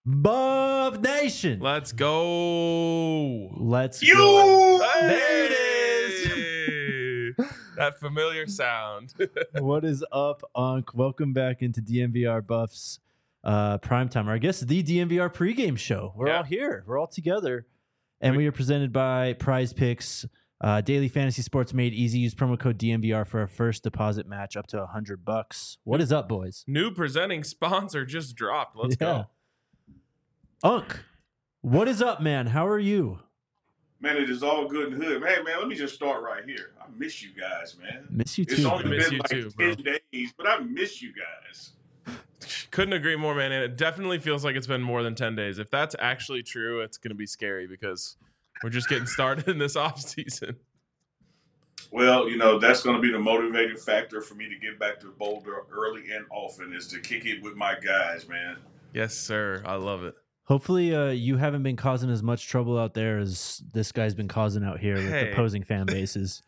Buff Nation. Let's go. Let's You. go. There it is. That familiar sound. What is up, Unc? Welcome back into DNVR Buffs Primetime, or I guess the DNVR pregame show. We're all here. We're all together. And we are presented by Prize Picks. Daily fantasy sports made easy. Use promo code DNVR for a first deposit match up to $100. What is up, boys? New presenting sponsor just dropped. Let's go. Unc, what is up, man? How are you? Man, it is all good and hood. Hey, man, let me just start right here. I miss you guys, man. Miss you too. It's only Miss been you like too, 10 days, but I miss you guys. Couldn't agree more, man. And it definitely feels like it's been more than 10 days. If that's actually true, it's going to be scary because we're just getting started in this off season. Well, that's going to be the motivating factor for me to get back to Boulder early and often is to kick it with my guys, man. Yes, sir. I love it. Hopefully, you haven't been causing as much trouble out there as this guy's been causing out here with opposing fan bases.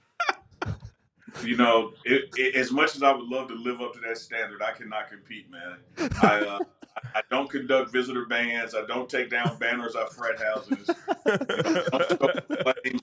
As much as I would love to live up to that standard, I cannot compete, man. I don't conduct visitor bans. I don't take down banners at frat houses. I don't start claims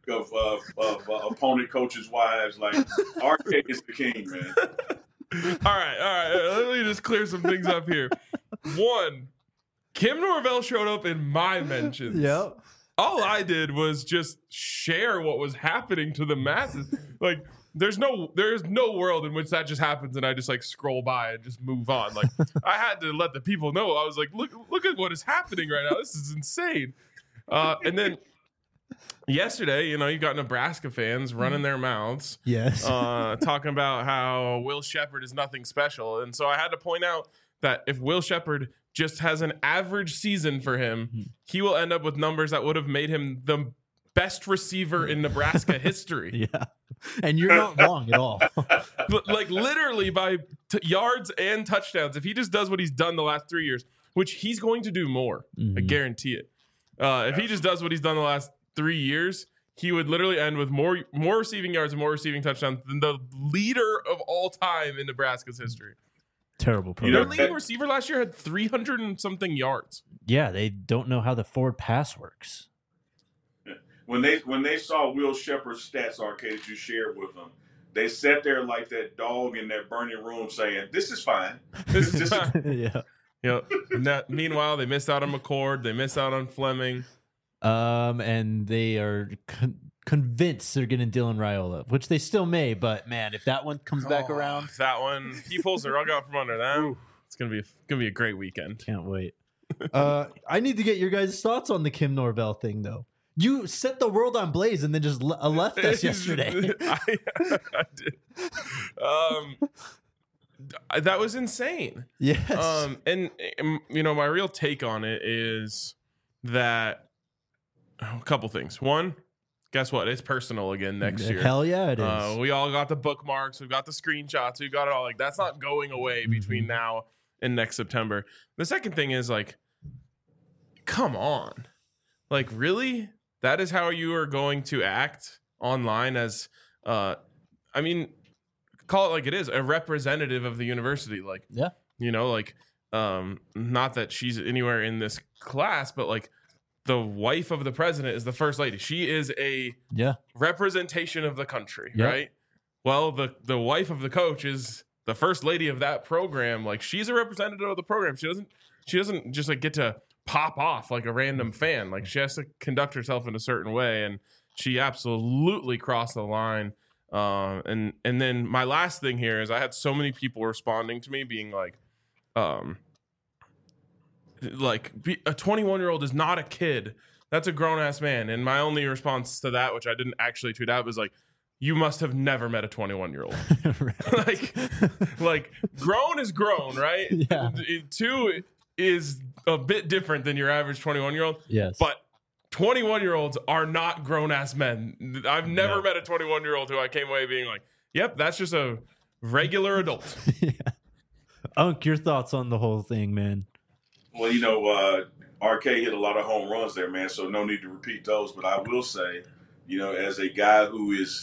of opponent coaches' wives. Like, RK is the king, man. All right. Let me just clear some things up here. One, Kim Norvell showed up in my mentions. Yep. All I did was just share what was happening to the masses. Like, there's no world in which that just happens and I just like scroll by and just move on. Like, I had to let the people know. I was like, look at what is happening right now. This is insane. And then yesterday, you got Nebraska fans running their mouths. Yes. Talking about how Will Sheppard is nothing special. And so I had to point out that if Will Sheppard just has an average season for him, he will end up with numbers that would have made him the best receiver in Nebraska history. Yeah. And you're not wrong at all. Like literally by yards and touchdowns. If he just does what he's done the last 3 years, which he's going to do more, I guarantee it. If he just does what he's done the last 3 years, he would literally end with more receiving yards and more receiving touchdowns than the leader of all time in Nebraska's history. Terrible program. Their leading receiver last year had 300 and something yards. Yeah, they don't know how the forward pass works. When they saw Will Sheppard's stats, RK, that you shared with them, they sat there like that dog in that burning room saying, "This is fine." This is Yeah. Meanwhile, they missed out on McCord. They missed out on Fleming. And they are convinced they're getting Dylan Raiola, which they still may. But man, if that one comes back around, He pulls the rug out from under them. It's gonna be a great weekend. Can't wait. I need to get your guys' thoughts on the Kim Norvell thing, though. You set the world on blaze and then just left us yesterday. I did. That was insane. Yes. And my real take on it is that a couple things. One, guess what? It's personal again next year. Hell yeah, it is. We all got the bookmarks. We've got the screenshots. We've got it all. Like, that's not going away between now and next September. The second thing is, like, come on. Like, really? That is how you are going to act online as, call it like it is, a representative of the university. Like, yeah. Not that she's anywhere in this class, but like the wife of the president is the first lady. She is a representation of the country, right? Well, the wife of the coach is the first lady of that program. Like, she's a representative of the program. She doesn't just like get to pop off like a random fan. Like, she has to conduct herself in a certain way, and she absolutely crossed the line. And then my last thing here is I had so many people responding to me being like, a 21-year-old is not a kid. That's a grown-ass man. And my only response to that, which I didn't actually tweet out, was like, you must have never met a 21-year-old. like grown is grown, right? Yeah. Two is a bit different than your average 21-year-old. Yes. But 21-year-olds are not grown-ass men. I've never met a 21-year-old who I came away being like, yep, that's just a regular adult. Yeah. Unc, your thoughts on the whole thing, man? Well, RK hit a lot of home runs there, man, so no need to repeat those. But I will say, as a guy who is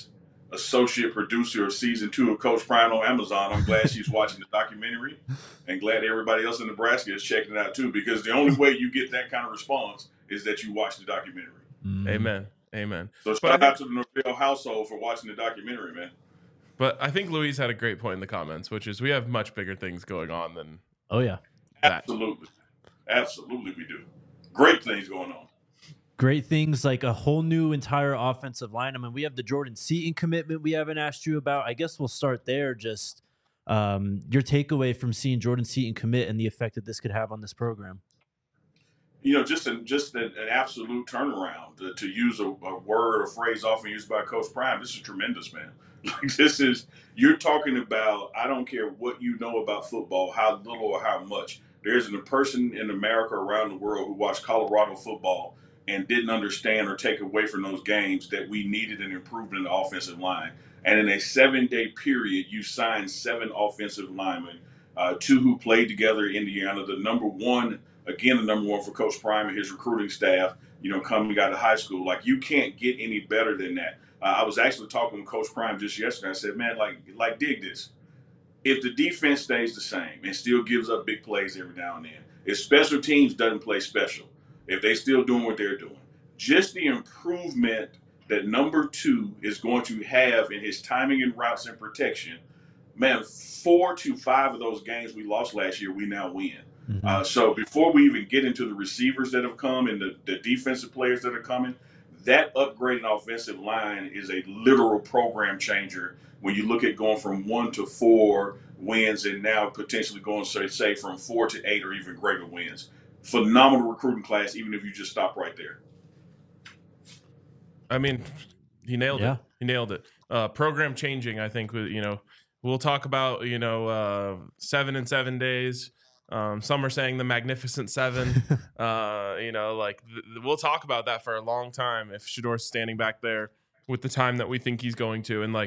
associate producer of season 2 of Coach Prime on Amazon. I'm glad she's watching the documentary, and glad everybody else in Nebraska is checking it out too, because the only way you get that kind of response is that you watch the documentary. Amen. So shout out to the Norvell household for watching the documentary, man. But I think Louise had a great point in the comments, which is we have much bigger things going on than. Oh yeah, that. Absolutely we do. Great things going on. Great things like a whole new entire offensive line. I mean, we have the Jordan Seaton commitment we haven't asked you about. I guess we'll start there. Just your takeaway from seeing Jordan Seaton commit and the effect that this could have on this program. Just an absolute turnaround. To use a word or phrase often used by Coach Prime, this is tremendous, man. You're talking about, I don't care what you know about football, how little or how much. There isn't a person in America around the world who watched Colorado football and didn't understand or take away from those games that we needed an improvement in the offensive line. And in a 7-day period, you signed 7 offensive linemen, 2 who played together in Indiana, the number one for Coach Prime and his recruiting staff, coming out of high school. Like, you can't get any better than that. I was actually talking with Coach Prime just yesterday. I said, man, like dig this. If the defense stays the same and still gives up big plays every now and then, if special teams doesn't play special, if they still doing what they're doing, just the improvement that number 2 is going to have in his timing and routes and protection, man, 4 to 5 of those games we lost last year, we now win. Mm-hmm. So before we even get into the receivers that have come and the defensive players that are coming, that upgraded offensive line is a literal program changer when you look at going from 1 to 4 wins and now potentially going, say, from 4 to 8 or even greater wins. Phenomenal recruiting class, even if you just stop right there. I mean, he nailed it. He nailed it. Program changing, I think, we'll talk about, 7 in 7 days. Some are saying the Magnificent Seven. We'll talk about that for a long time if Shedeur's standing back there with the time that we think he's going to. And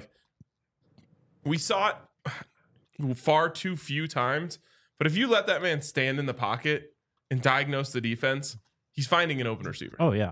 we saw it far too few times. But if you let that man stand in the pocket and diagnose the defense, he's finding an open receiver. Oh yeah.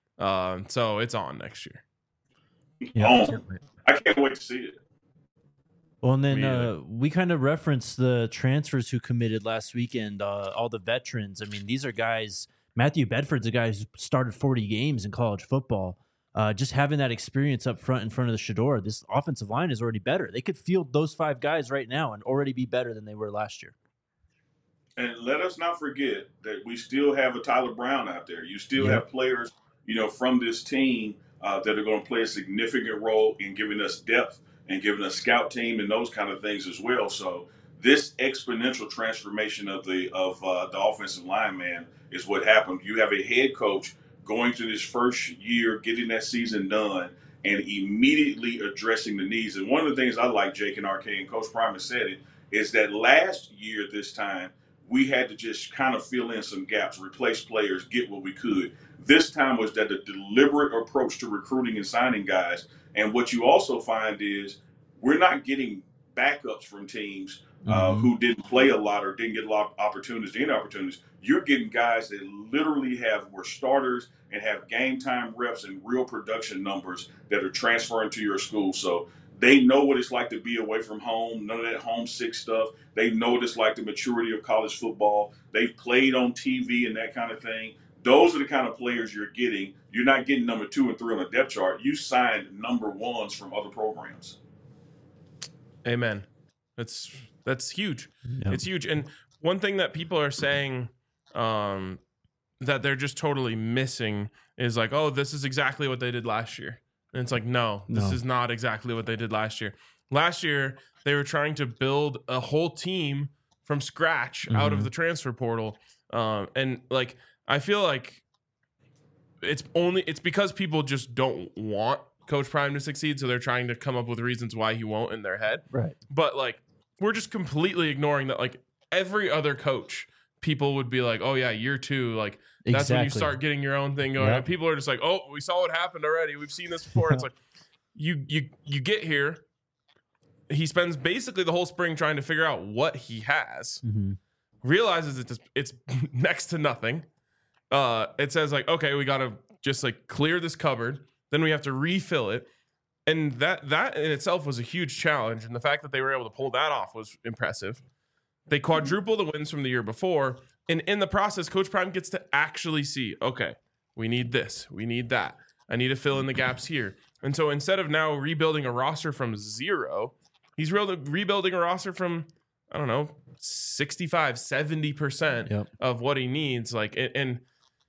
So it's on next year. Yeah, I can't wait to see it. Well, and then we kind of referenced the transfers who committed last weekend, all the veterans. I mean, these are guys, Matthew Bedford's a guy who started 40 games in college football. Just having that experience up front in front of the Shedeur, this offensive line is already better. They could field those 5 guys right now and already be better than they were last year. And let us not forget that we still have a Tyler Brown out there. You still have players, from this team that are going to play a significant role in giving us depth and giving a scout team and those kind of things as well. So this exponential transformation of the offensive line, man, is what happened. You have a head coach going to this first year, getting that season done, and immediately addressing the needs. And one of the things I like, Jake and RK, and Coach Prime has said it, is that last year this time, we had to just kind of fill in some gaps, replace players, get what we could. This time was that a deliberate approach to recruiting and signing guys. And what you also find is we're not getting backups from teams who didn't play a lot or didn't get a lot of opportunities. You're getting guys that literally were starters and have game time reps and real production numbers that are transferring to your school. So they know what it's like to be away from home, none of that homesick stuff. They know what it's like, the maturity of college football. They've played on TV and that kind of thing. Those are the kind of players you're getting. You're not getting number 2 and 3 on the depth chart. You signed number 1s from other programs. Amen. That's huge. Yep. It's huge. And one thing that people are saying that they're just totally missing is like, oh, this is exactly what they did last year. And it's like, no, this is not exactly what they did last year. Last year, they were trying to build a whole team from scratch out of the transfer portal. And I feel like it's because people just don't want Coach Prime to succeed, so they're trying to come up with reasons why he won't in their head. Right. But we're just completely ignoring that. Every other coach, people would be like, "Oh yeah, year 2, that's when you start getting your own thing going." Yep. And people are just like, "Oh, we saw what happened already. We've seen this before." It's like you get here. He spends basically the whole spring trying to figure out what he has. Realizes it's next to nothing. It says okay, we got to just clear this cupboard. Then we have to refill it. And that in itself was a huge challenge. And the fact that they were able to pull that off was impressive. They quadruple the wins from the year before. And in the process, Coach Prime gets to actually see, okay, we need this, we need that. I need to fill in the gaps here. And so instead of now rebuilding a roster from zero, he's rebuilding a roster from, I don't know, 65, 70% of what he needs. Like, and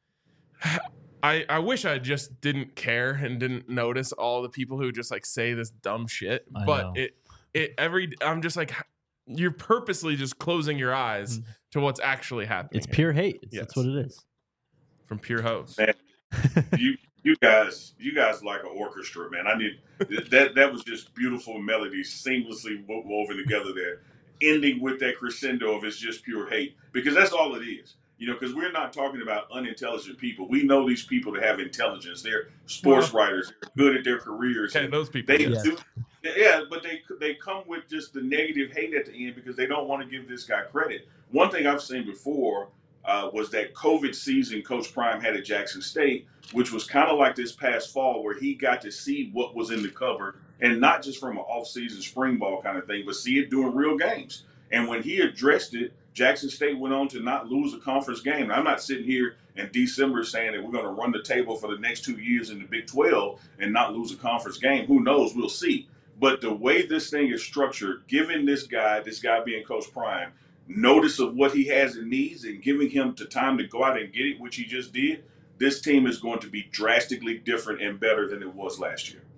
I wish I just didn't care and didn't notice all the people who just like say this dumb shit. But I'm just like, you're purposely just closing your eyes to what's actually happening. It's pure hate. That's what it is. From pure hoes. Man, you guys like an orchestra, man. I need that was just beautiful melodies seamlessly woven together there, ending with that crescendo of it's just pure hate, because that's all it is. Because we're not talking about unintelligent people. We know these people that have intelligence. They're sports writers. They're good at their careers. Okay, those people. But they come with just the negative hate at the end because they don't want to give this guy credit. One thing I've seen before was that COVID season Coach Prime had at Jackson State, which was kind of like this past fall where he got to see what was in the cupboard, and not just from an off-season spring ball kind of thing, but see it during real games. And when he addressed it, Jackson State went on to not lose a conference game. And I'm not sitting here in December saying that we're going to run the table for the next 2 years in the Big 12 and not lose a conference game. Who knows? We'll see. But the way this thing is structured, giving this guy being Coach Prime, notice of what he has and needs and giving him the time to go out and get it, which he just did, this team is going to be drastically different and better than it was last year.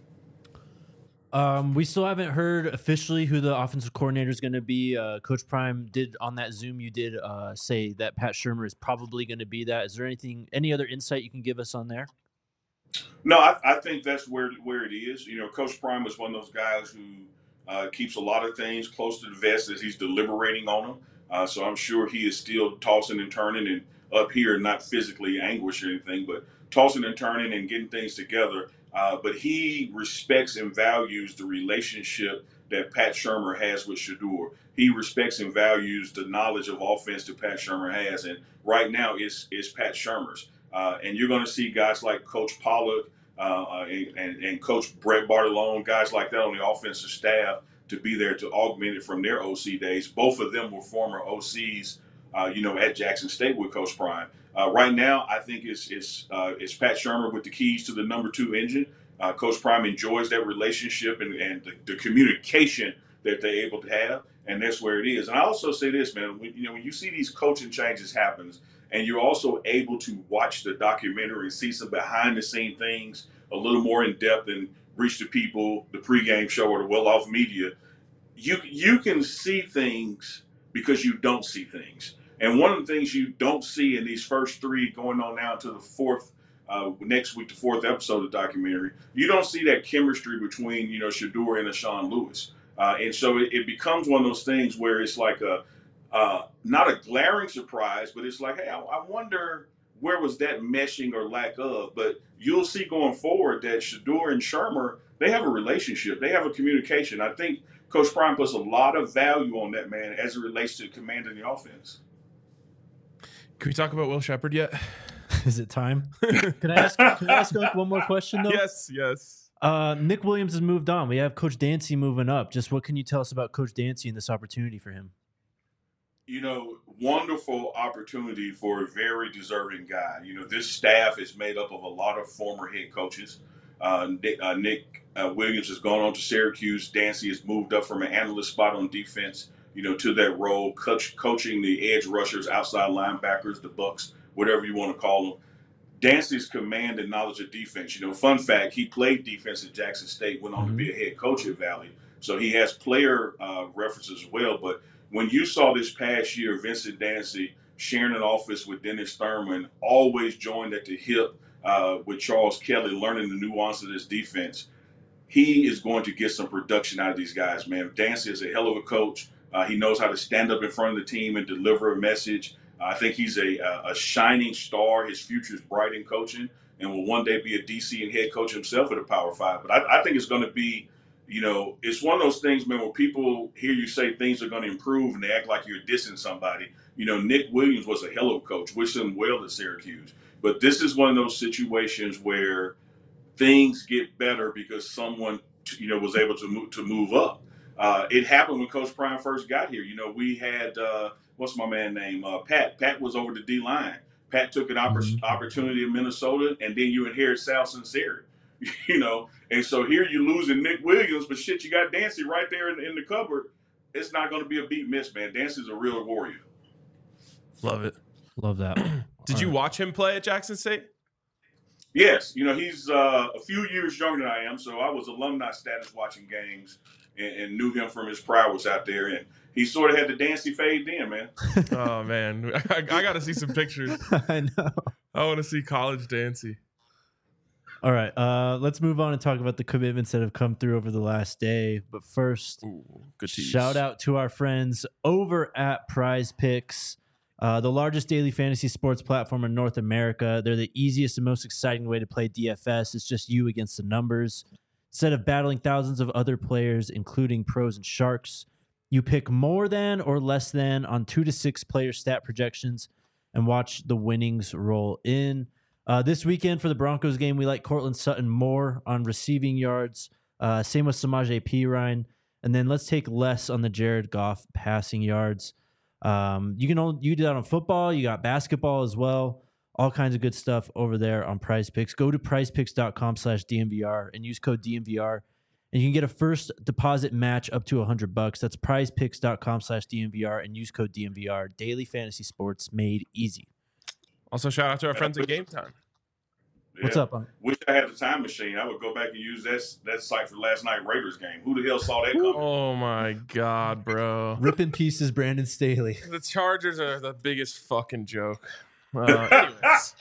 We still haven't heard officially who the offensive coordinator is going to be. Coach Prime did on that Zoom. You did say that Pat Shurmur is probably going to be that. Is there any other insight you can give us on there? No, I think that's where it is. Coach Prime is one of those guys who keeps a lot of things close to the vest as he's deliberating on them. So I'm sure he is still tossing and turning and up here, not physically anguished or anything, but tossing and turning and getting things together. But he respects and values the relationship that Pat Shurmur has with Shedeur. He respects and values the knowledge of offense that Pat Shurmur has. And right now it's Pat Shurmur's. And you're going to see guys like Coach Pollock and Coach Brett Bartolone, guys like that on the offensive staff to be there to augment it from their OC days. Both of them were former OCs, at Jackson State with Coach Prime. Right now, I think it's Pat Shurmur with the keys to the number 2 engine. Coach Prime enjoys that relationship and the communication that they're able to have, and that's where it is. And I also say this, man, when you see these coaching changes happen, and you're also able to watch the documentary and see some behind-the-scene things a little more in depth and reach the people, the pregame show or the well-off media, you can see things because you don't see things. And one of the things you don't see in these first 3 going on now to the 4th, next week, the 4th episode of the documentary, you don't see that chemistry between, Shedeur and Sean Lewis. And so it becomes one of those things where it's like not a glaring surprise, but it's like, hey, I wonder where was that meshing or lack of. But you'll see going forward that Shedeur and Shurmur, they have a relationship. They have a communication. I think Coach Prime puts a lot of value on that, man, as it relates to commanding the offense. Can we talk about Will Sheppard yet? Is it time? Can I ask like one more question though? Yes. Nick Williams has moved on. We have Coach Dancy moving up. Just what can you tell us about Coach Dancy and this opportunity for him? Wonderful opportunity for a very deserving guy. This staff is made up of a lot of former head coaches. Nick Williams has gone on to Syracuse. Dancy has moved up from an analyst spot on defense, to that role, coaching the edge rushers, outside linebackers, the Bucks, whatever you want to call them. Dancy's command and knowledge of defense. Fun fact, he played defense at Jackson State, went on to be a head coach at Valley. So he has player references as well. But when you saw this past year, Vincent Dancy sharing an office with Dennis Thurman, always joined at the hip with Charles Kelly, learning the nuance of this defense, he is going to get some production out of these guys, man. Dancy is a hell of a coach. He knows how to stand up in front of the team and deliver a message. I think he's a shining star. His future is bright in coaching and will one day be a DC and head coach himself at a Power 5. But I think it's going to be, it's one of those things, man, where people hear you say things are going to improve and they act like you're dissing somebody. Nick Williams was a hell of a coach. Wish him well at Syracuse. But this is one of those situations where things get better because someone, was able to move up. It happened when Coach Prime first got here. We had what's my man name? Pat. Pat was over the D line. Pat took an opportunity in Minnesota, and then you inherit Sal Sinceri. And so here you're losing Nick Williams, but shit, you got Dancy right there in the cupboard. It's not going to be a beat miss, man. Dancy's a real warrior. Love it. Love that. Did you watch him play at Jackson State? Yes. He's a few years younger than I am, so I was alumni status watching games and knew him from his prowess out there. And he sort of had the Dancy fade in, man. Oh, man. I got to see some pictures. I know. I want to see college Dancy. All right, let's move on and talk about the commitments that have come through over the last day. But first, good shout out to our friends over at Prize Picks, the largest daily fantasy sports platform in North America. They're the easiest and most exciting way to play DFS. It's just you against the numbers. Instead of battling thousands of other players, including pros and sharks, you pick more than or less than on 2 to 6 player stat projections and watch the winnings roll in. This weekend for the Broncos game, we like Cortland Sutton more on receiving yards. Same with Samaje Perine. And then let's take less on the Jared Goff passing yards. You do that on football. You got basketball as well. All kinds of good stuff over there on Prize Picks. Go to prizepicks.com/DNVR and use code DNVR. And you can get a first deposit match up to $100. That's prizepicks.com/DNVR and use code DNVR. Daily fantasy sports made easy. Also, shout out to our friends at Game Time. Yeah. What's up, Unc? Wish I had the time machine. I would go back and use that site for last night Raiders game. Who the hell saw that coming? Oh, my God, bro. Rip in pieces, Brandon Staley. The Chargers are the biggest fucking joke. Anyways.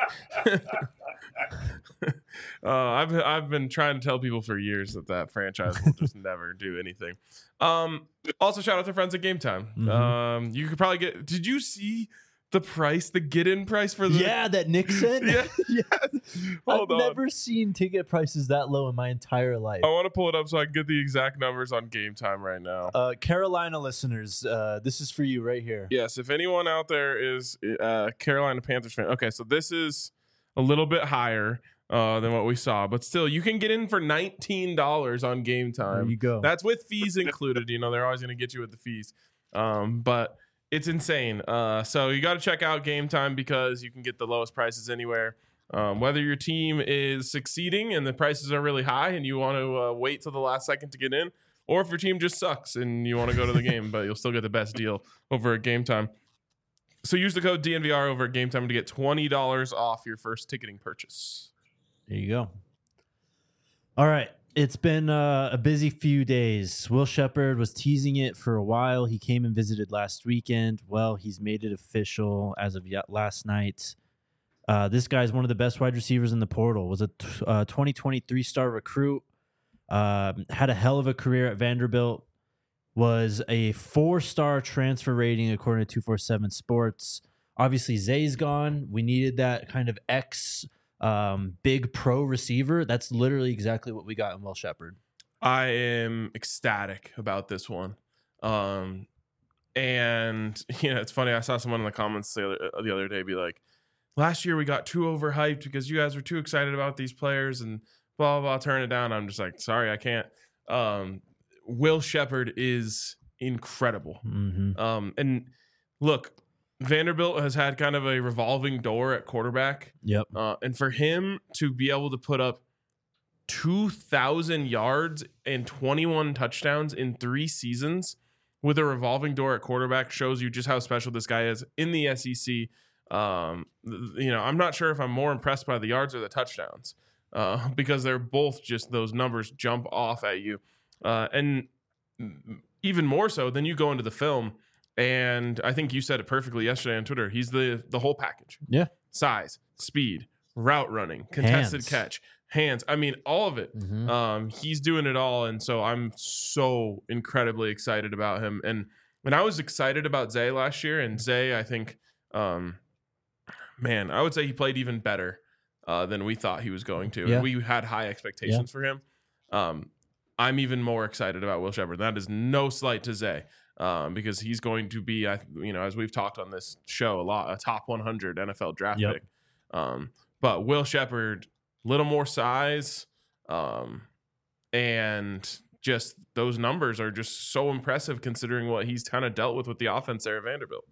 I've been trying to tell people for years that franchise will just never do anything. Also, shout out to friends at Game Time. Mm-hmm. You could probably get... Did you see... the get-in price for the... Yeah, that Nick sent? Yeah. I've never seen ticket prices that low in my entire life. I want to pull it up so I can get the exact numbers on Game Time right now. Carolina listeners, this is for you right here. Yes, if anyone out there is Carolina Panthers fan. Okay, so this is a little bit higher than what we saw, but still, you can get in for $19 on Game Time. There you go. That's with fees included. They're always going to get you with the fees. But... it's insane. So you got to check out Game Time because you can get the lowest prices anywhere. Whether your team is succeeding and the prices are really high and you want to wait till the last second to get in, or if your team just sucks and you want to go to the game, but you'll still get the best deal over at Game Time. So use the code DNVR over at Game Time to get $20 off your first ticketing purchase. There you go. All right. It's been a busy few days. Will Shepherd was teasing it for a while. He came and visited last weekend. Well, he's made it official as of last night. This guy's one of the best wide receivers in the portal. Was a 2023 star recruit. Had a hell of a career at Vanderbilt. Was a 4-star transfer rating according to 247 Sports. Obviously, Zay's gone. We needed that kind of big pro receiver. That's literally exactly what we got in Will Shepherd. I am ecstatic about this one. And it's funny, I saw someone in the comments the other day be like, last year we got too overhyped because you guys were too excited about these players and blah blah blah, turn it down. I'm just like, sorry, I can't. Will Shepherd is incredible. And look, Vanderbilt has had kind of a revolving door at quarterback. Yep. And for him to be able to put up 2,000 yards and 21 touchdowns in 3 seasons with a revolving door at quarterback shows you just how special this guy is in the SEC. I'm not sure if I'm more impressed by the yards or the touchdowns because they're both just, those numbers jump off at you. And even more so, then you go into the film. And I think you said it perfectly yesterday on Twitter. He's the whole package. Yeah. Size, speed, route running, contested catch, hands. I mean, all of it. He's doing it all. And so I'm so incredibly excited about him. And when I was excited about Zay last year, and Zay, I think, I would say he played even better than we thought he was going to. Yeah. And we had high expectations for him. I'm even more excited about Will Shepherd. That is no slight to Zay. Because he's going to be, as we've talked on this show a lot, a top 100 NFL draft pick. But Will Shepherd little more size, and just those numbers are just so impressive considering what he's kind of dealt with the offense there at Vanderbilt.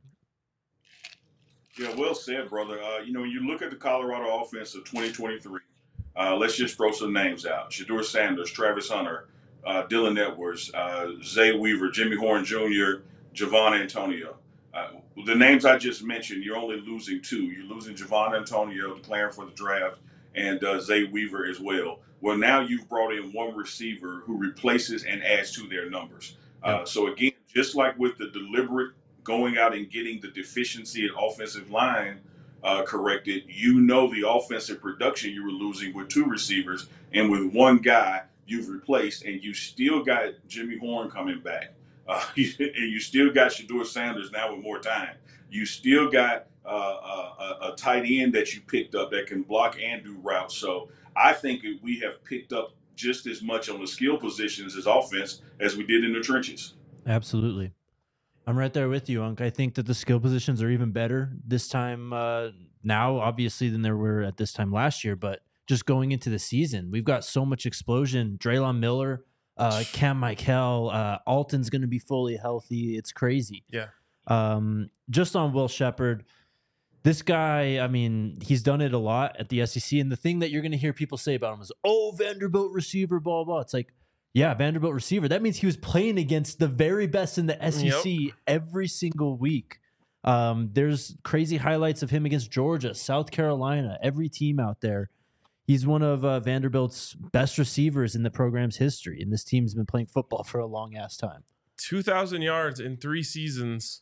Yeah, well said, brother. When you look at the Colorado offense of 2023, let's just throw some names out. Shedeur Sanders, Travis Hunter, Dylan Edwards, Zay Weaver, Jimmy Horn Jr., Javon Antonio. The names I just mentioned, you're only losing two. You're losing Javon Antonio, declaring for the draft, and Zay Weaver as well. Well, now you've brought in one receiver who replaces and adds to their numbers. So again, just like with the deliberate going out and getting the deficiency at offensive line corrected, the offensive production you were losing with two receivers, and with one guy you've replaced, and you still got Jimmy Horn coming back. And you still got Shedeur Sanders now with more time. You still got a tight end that you picked up that can block and do routes. So I think we have picked up just as much on the skill positions as offense as we did in the trenches. Absolutely. I'm right there with you, Unc. I think that the skill positions are even better this time now, obviously, than there were at this time last year. But just going into the season, we've got so much explosion. Draylon Miller, Cam Michael, Alton's going to be fully healthy. It's crazy. Yeah. Just on Will Sheppard, this guy, I mean, he's done it a lot at the SEC. And the thing that you're going to hear people say about him is, Vanderbilt receiver, blah, blah. It's like, yeah, Vanderbilt receiver. That means he was playing against the very best in the SEC every single week. There's crazy highlights of him against Georgia, South Carolina, every team out there. He's one of Vanderbilt's best receivers in the program's history, and this team's been playing football for a long-ass time. 2,000 yards in 3 seasons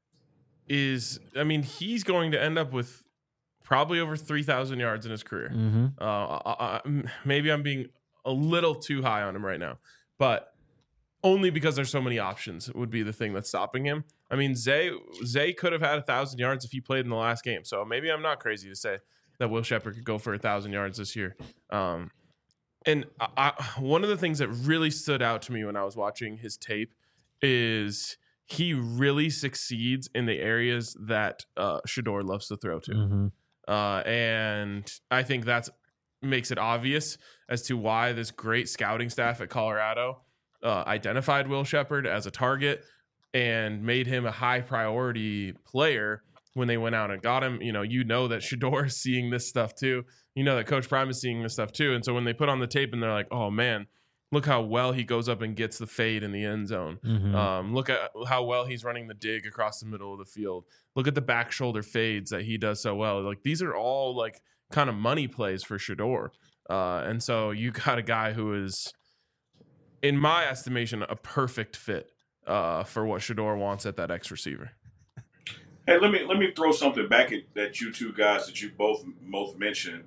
he's going to end up with probably over 3,000 yards in his career. Mm-hmm. Maybe I'm being a little too high on him right now, but only because there's so many options would be the thing that's stopping him. I mean, Zay could have had 1,000 yards if he played in the last game. So maybe I'm not crazy to say that Will Sheppard could go for 1,000 yards this year. And one of the things that really stood out to me when I was watching his tape is he really succeeds in the areas that Shedeur loves to throw to. Mm-hmm. And I think that's makes it obvious as to why this great scouting staff at Colorado identified Will Sheppard as a target and made him a high priority player when they went out and got him. That Shedeur is seeing this stuff too. That Coach Prime is seeing this stuff too. And so when they put on the tape and they're like, oh man, look how well he goes up and gets the fade in the end zone. Mm-hmm. Look at how well he's running the dig across the middle of the field. Look at the back shoulder fades that he does so well. Like, these are all like kind of money plays for Shedeur. And so you got a guy who is, in my estimation, a perfect fit for what Shedeur wants at that X receiver. Hey, let me throw something back at you two guys that you both mentioned.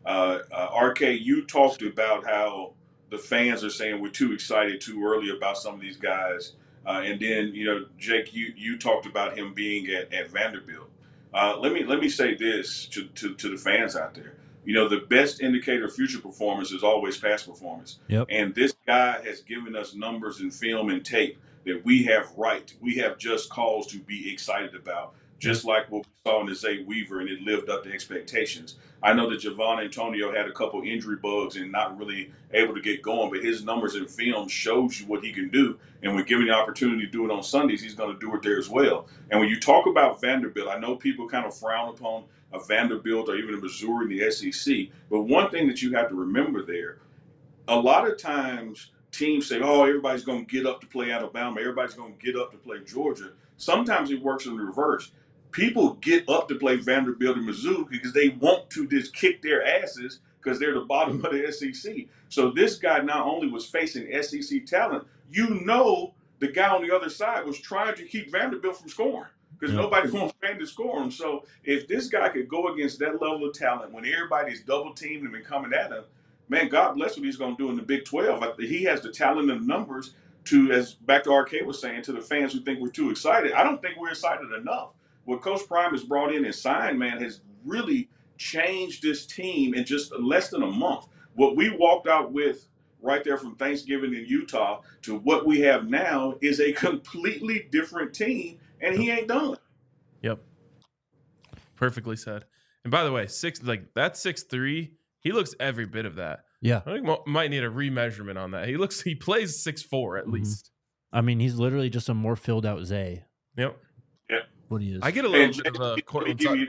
RK, you talked about how the fans are saying we're too excited too early about some of these guys. And then, Jake, you talked about him being at Vanderbilt. Let me say this to the fans out there. The best indicator of future performance is always past performance. Yep. And this guy has given us numbers and film and tape that we have just cause to be excited about. Just like what we saw in the Zay Weaver, and it lived up to expectations. I know that Javon Antonio had a couple injury bugs and not really able to get going, but his numbers in film shows you what he can do. And when given the opportunity to do it on Sundays, he's going to do it there as well. And when you talk about Vanderbilt, I know people kind of frown upon a Vanderbilt or even a Missouri in the SEC, but one thing that you have to remember there, a lot of times teams say, oh, everybody's going to get up to play Alabama, everybody's going to get up to play Georgia. Sometimes it works in reverse. People get up to play Vanderbilt and Mizzou because they want to just kick their asses because they're the bottom of the SEC. So this guy not only was facing SEC talent, the guy on the other side was trying to keep Vanderbilt from scoring because nobody wants Van to score him. So if this guy could go against that level of talent when everybody's double teaming him and coming at him, man, God bless what he's going to do in the Big 12. He has the talent and numbers to, as back to RK was saying, to the fans who think we're too excited. I don't think we're excited enough. What Coach Prime has brought in and signed, man, has really changed this team in just less than a month. What we walked out with right there from Thanksgiving in Utah to what we have now is a completely different team, and he ain't done. Yep. Perfectly said. And by the way, that's 6'3", He looks every bit of that. Yeah. I think might need a remeasurement on that. He plays 6'4" at least. I mean, he's literally just a more filled out Zay. Yep. What he is. I get a little bit of Cortland Sutton.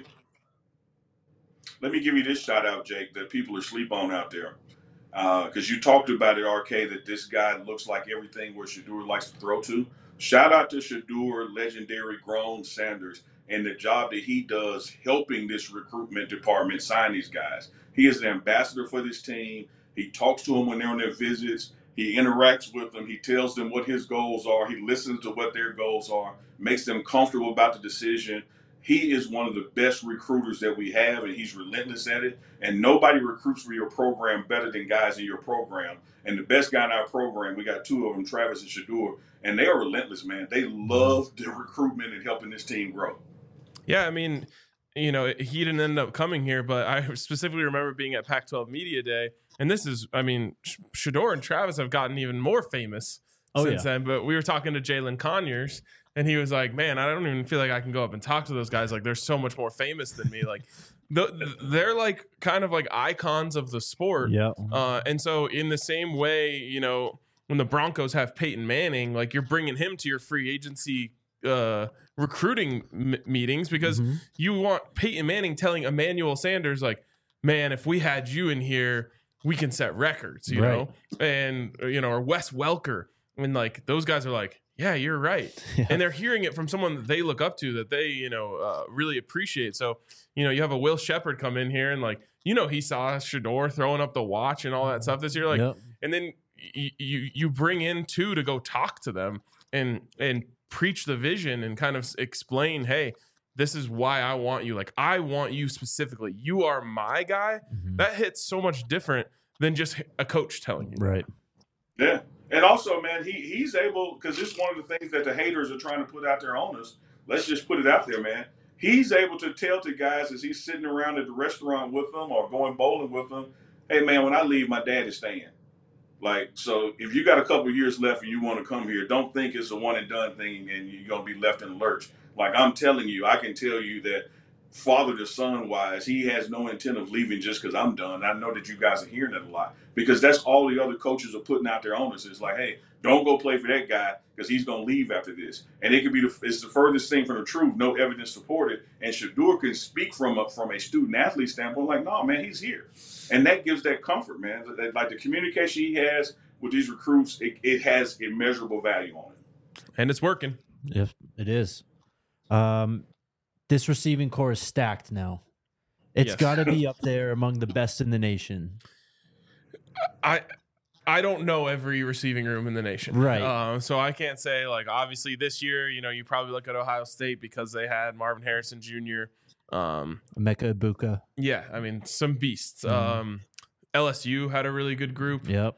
Let me give you this shout out, Jake, that people are asleep on out there. Because you talked about it, RK, that this guy looks like everything where Shedeur likes to throw to. Shout out to Shedeur, legendary Grown Sanders, and the job that he does helping this recruitment department sign these guys. He is an ambassador for this team. He talks to them when they're on their visits. He interacts with them. He tells them what his goals are. He listens to what their goals are, makes them comfortable about the decision. He is one of the best recruiters that we have, and he's relentless at it. And nobody recruits for your program better than guys in your program. And the best guy in our program, we got two of them, Travis and Shedeur, and they are relentless, man. They love the recruitment and helping this team grow. Yeah, I mean, he didn't end up coming here, but I specifically remember being at Pac-12 Media Day. And this is, I mean, Shedeur and Travis have gotten even more famous since then. But we were talking to Jalen Conyers, and he was like, man, I don't even feel like I can go up and talk to those guys. Like, they're so much more famous than me. Like, they're like kind of like icons of the sport. Yeah. And so in the same way, when the Broncos have Peyton Manning, like you're bringing him to your free agency recruiting meetings because you want Peyton Manning telling Emmanuel Sanders, like, man, if we had you in here, we can set records, you know? And, or Wes Welker. And like, those guys are like, yeah, you're right. Yeah. And they're hearing it from someone that they look up to, that they, really appreciate. So, you have a Will Shepherd come in here and like, he saw Shedeur throwing up the watch and all that stuff this year. Like, and then you bring in two to go talk to them and preach the vision and kind of explain, hey, this is why I want you. Like, I want you specifically. You are my guy. That hits so much different than just a coach telling you. Right. Yeah. And also, man, he's able, because this is one of the things that the haters are trying to put out there on us. Let's just put it out there, man. He's able to tell to guys as he's sitting around at the restaurant with them or going bowling with them, hey, man, when I leave, my dad is staying. Like, so if you got a couple of years left and you want to come here, don't think it's a one and done thing and you're going to be left in the lurch. Like, I'm telling you, I can tell you that father to son wise, he has no intent of leaving just because I'm done. I know that you guys are hearing that a lot because that's all the other coaches are putting out there on us. It's like, hey, don't go play for that guy because he's going to leave after this. And it could be it's the furthest thing from the truth, no evidence supported. And Shedeur can speak from a student athlete standpoint, like, no, man, he's here. And that gives that comfort, man. Like the communication he has with these recruits, it has immeasurable value on it. And it's working. Yes, it is. This receiving core is stacked now. It's got to be up there among the best in the nation. I don't know every receiving room in the nation. Right. So I can't say, like, obviously this year, you probably look at Ohio State because they had Marvin Harrison Jr. Emeka Egbuka. Yeah, I mean, some beasts. LSU had a really good group. Yep.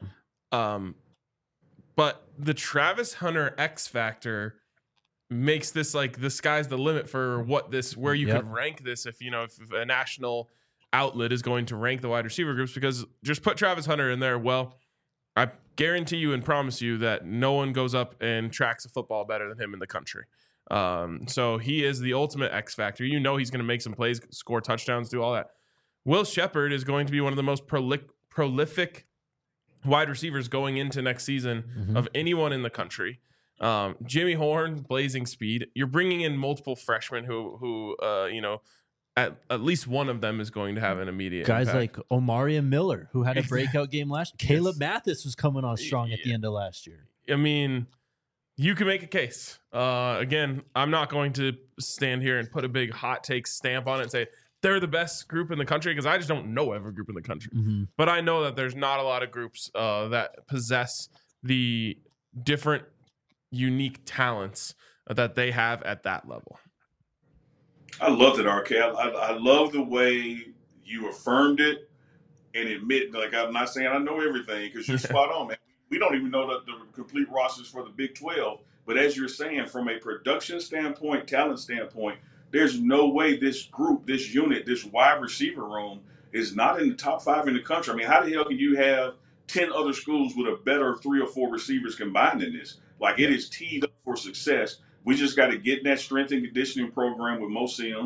But the Travis Hunter X factor makes this like the sky's the limit for where you could rank this if a national outlet is going to rank the wide receiver groups, because just put Travis Hunter in there. Well, I guarantee you and promise you that no one goes up and tracks a football better than him in the country. So he is the ultimate X factor. He's going to make some plays, score touchdowns, do all that. Will Shepherd is going to be one of the most prolific wide receivers going into next season of anyone in the country. Jimmy Horn, blazing speed. You're bringing in multiple freshmen who at least one of them is going to have an immediate guys impact. Like Omarion Miller, who had a breakout game last year. Caleb Mathis was coming on strong at the end of last year. I mean, you can make a case. Again, I'm not going to stand here and put a big hot take stamp on it and say they're the best group in the country, because I just don't know every group in the country. But I know that there's not a lot of groups that possess the different unique talents that they have at that level. I love it, RK. I love the way you affirmed it and admit, like, I'm not saying I know everything, because you're spot on, man. We don't even know the complete rosters for the Big 12. But as you're saying, from a production standpoint, talent standpoint, there's no way this group, this unit, this wide receiver room is not in the top 5 in the country. I mean, how the hell can you have 10 other schools with a better 3 or 4 receivers combined in this? Like, it is teed up for success. We just got to get in that strength and conditioning program with Mo Sims.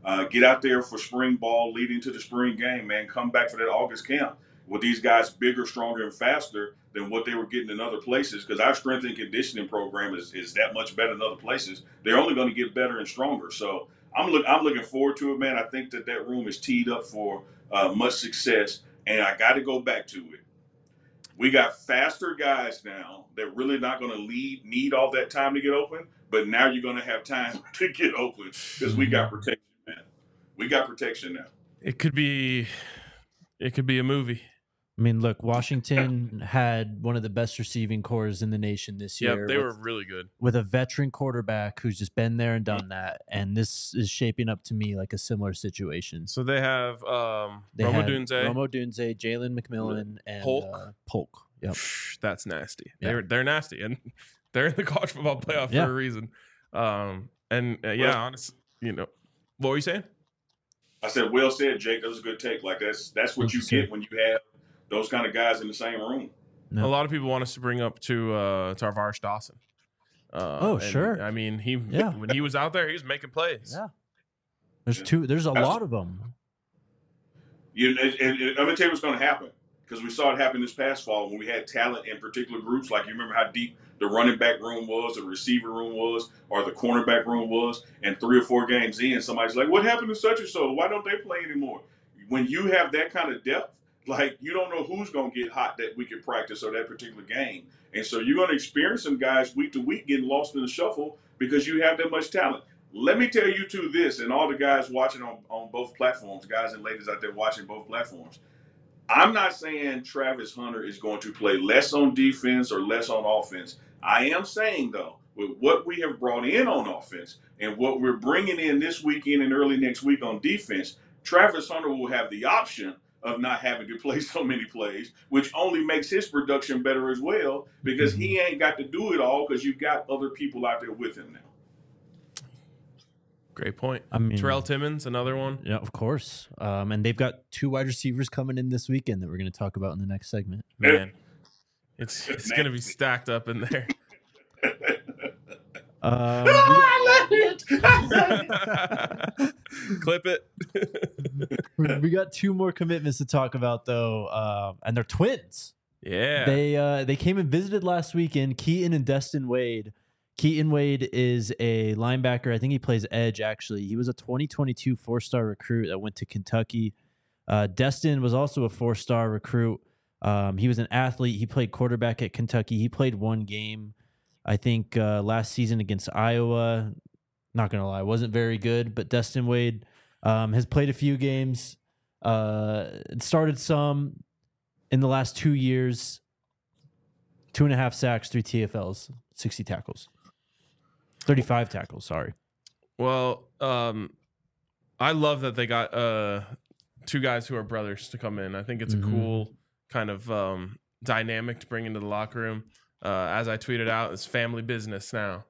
Get out there for spring ball leading to the spring game, man. Come back for that August camp with these guys bigger, stronger, and faster than what they were getting in other places, because our strength and conditioning program is that much better than other places. They're only going to get better and stronger. So I'm looking forward to it, man. I think that room is teed up for much success. And I got to go back to it. We got faster guys now that really not going to need all that time to get open, but now you're going to have time to get open because we got protection, man. We got protection now. It could be a movie. I mean, look, Washington had one of the best receiving corps in the nation this year. Yep, they were really good. With a veteran quarterback who's just been there and done that. And this is shaping up to me like a similar situation. So they have Rome Odunze, Jalen McMillan, and Polk. Yep. That's nasty. Yeah. They're nasty. And they're in the college football playoff for a reason. Honestly, what were you saying? I said, well said, Jake. That was a good take. Like that's what you get when you have those kind of guys in the same room. No. A lot of people want us to bring up to Tarvaris Dawson. Sure. I mean, when he was out there, he was making plays. Yeah. There's a lot of them. And I'm going to tell you what's going to happen, because we saw it happen this past fall when we had talent in particular groups. Like, you remember how deep the running back room was, the receiver room was, or the cornerback room was, and 3 or 4 games in, somebody's like, what happened to such and so? Why don't they play anymore? When you have that kind of depth, like, you don't know who's going to get hot that week at practice or that particular game. And so you're going to experience some guys week to week getting lost in the shuffle because you have that much talent. Let me tell you two this, and all the guys watching on both platforms, guys and ladies out there watching both platforms. I'm not saying Travis Hunter is going to play less on defense or less on offense. I am saying, though, with what we have brought in on offense and what we're bringing in this weekend and early next week on defense, Travis Hunter will have the option of not having to play so many plays, which only makes his production better as well, because he ain't got to do it all because you've got other people out there with him now. Great point. I mean, Terrell Timmons, another one. Yeah, of course. And they've got 2 wide receivers coming in this weekend that we're going to talk about in the next segment. Man, it's going to be stacked up in there. Clip it. We got 2 more commitments to talk about, though, and they're twins. Yeah, they came and visited last weekend. Keaton and Destin Wade. Keaton Wade is a linebacker. I think he plays edge, actually. He was a 2022 4-star recruit that went to Kentucky. Destin was also a 4-star recruit. He was an athlete. He played quarterback at Kentucky. He played 1 game, I think, last season against Iowa. Not going to lie, wasn't very good. But Destin Wade has played a few games, started some in the last 2 years, 2.5 sacks, 3 TFLs, 60 tackles. 35 tackles, sorry. Well, I love that they got 2 guys who are brothers to come in. I think it's a cool kind of dynamic to bring into the locker room. As I tweeted out, it's family business now.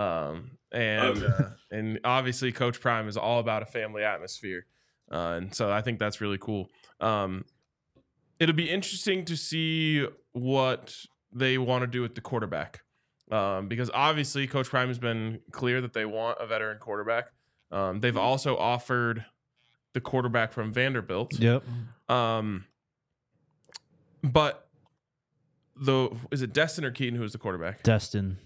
And obviously Coach Prime is all about a family atmosphere. And so I think that's really cool. It'll be interesting to see what they want to do with the quarterback. Because obviously Coach Prime has been clear that they want a veteran quarterback. They've also offered the quarterback from Vanderbilt. Yep. But is it Destin or Keaton who was the quarterback? Destin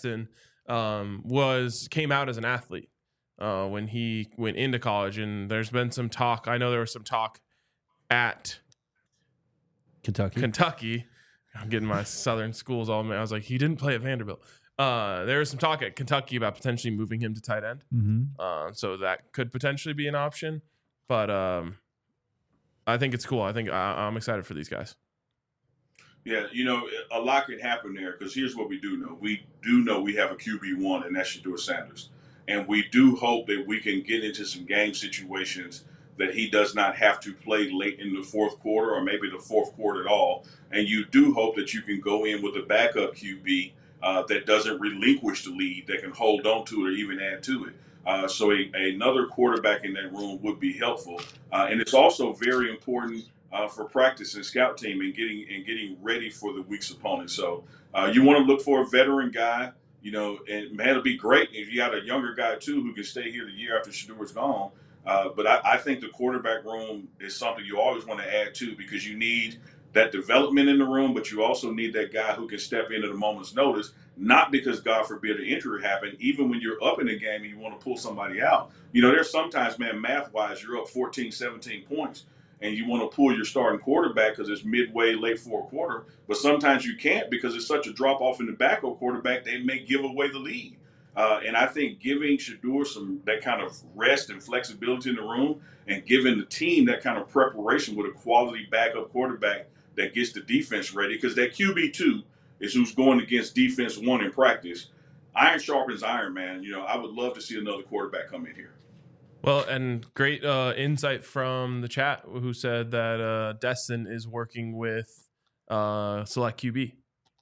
came out as an athlete when he went into college, and there's been some talk. I know there was some talk at Kentucky. I'm getting my Southern schools all. I was like, he didn't play at Vanderbilt. There was some talk at Kentucky about potentially moving him to tight end. So that could potentially be an option. But I think it's cool. I think I'm excited for these guys. Yeah, a lot can happen there, because here's what we do know. We do know we have a QB1, and that's Shedeur Sanders. And we do hope that we can get into some game situations that he does not have to play late in the 4th quarter, or maybe the 4th quarter at all. And you do hope that you can go in with a backup QB that doesn't relinquish the lead, that can hold on to it or even add to it. So another quarterback in that room would be helpful. And it's also very important for practice and scout team and getting ready for the week's opponent. So you want to look for a veteran guy, and man, it'll be great if you got a younger guy too who can stay here the year after Shedeur's gone. But I think the quarterback room is something you always want to add to, because you need that development in the room, but you also need that guy who can step in at a moment's notice, not because, God forbid, an injury happened. Even when you're up in the game and you want to pull somebody out, there's sometimes, man, math-wise, you're up 14, 17 points, and you want to pull your starting quarterback because it's midway, late fourth quarter. But sometimes you can't because it's such a drop-off in the backup quarterback, they may give away the lead. And I think giving Shedeur that kind of rest and flexibility in the room, and giving the team that kind of preparation with a quality backup quarterback that gets the defense ready, because that QB2 is who's going against defense 1 in practice. Iron sharpens iron, man. I would love to see another quarterback come in here. Well, and great insight from the chat, who said that Destin is working with Select QB.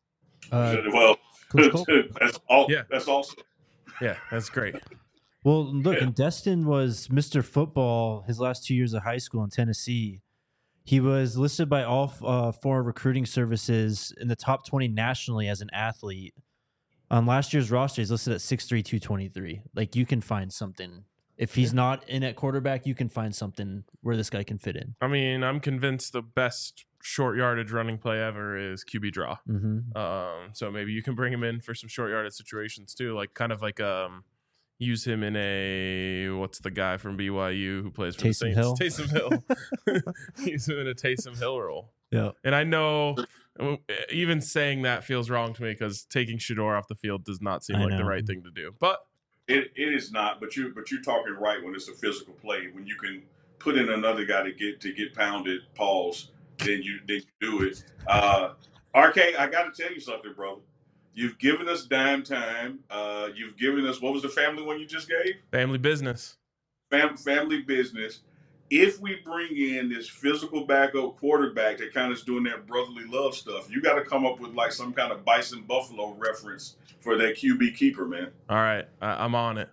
That's all. Yeah, that's awesome. Yeah, that's great. Well, look, and Destin was Mr. Football his last 2 years of high school in Tennessee. He was listed by all 4 recruiting services in the top 20 nationally as an athlete. On last year's roster, he's listed at 6'3", 223. Like, you can find something. If he's not in at quarterback, you can find something where this guy can fit in. I mean, I'm convinced the best short yardage running play ever is QB draw. Mm-hmm. So maybe you can bring him in for some short yardage situations too, like kind of like use him in a, what's the guy from BYU who plays for the Saints? Taysom Hill. Use him in a Taysom Hill role. Yeah. And I know even saying that feels wrong to me because taking Shedeur off the field does not seem like the right thing to do. But it is not. But you're talking right when it's a physical play. When you can put in another guy to get pounded, pause, then you do it. RK, I got to tell you something, brother. You've given us dime time. You've given us, what was the family one you just gave? Family business. Family business. If we bring in this physical backup quarterback that kind of is doing that brotherly love stuff, you got to come up with like some kind of Bison Buffalo reference for that QB keeper, man. All right. I'm on it.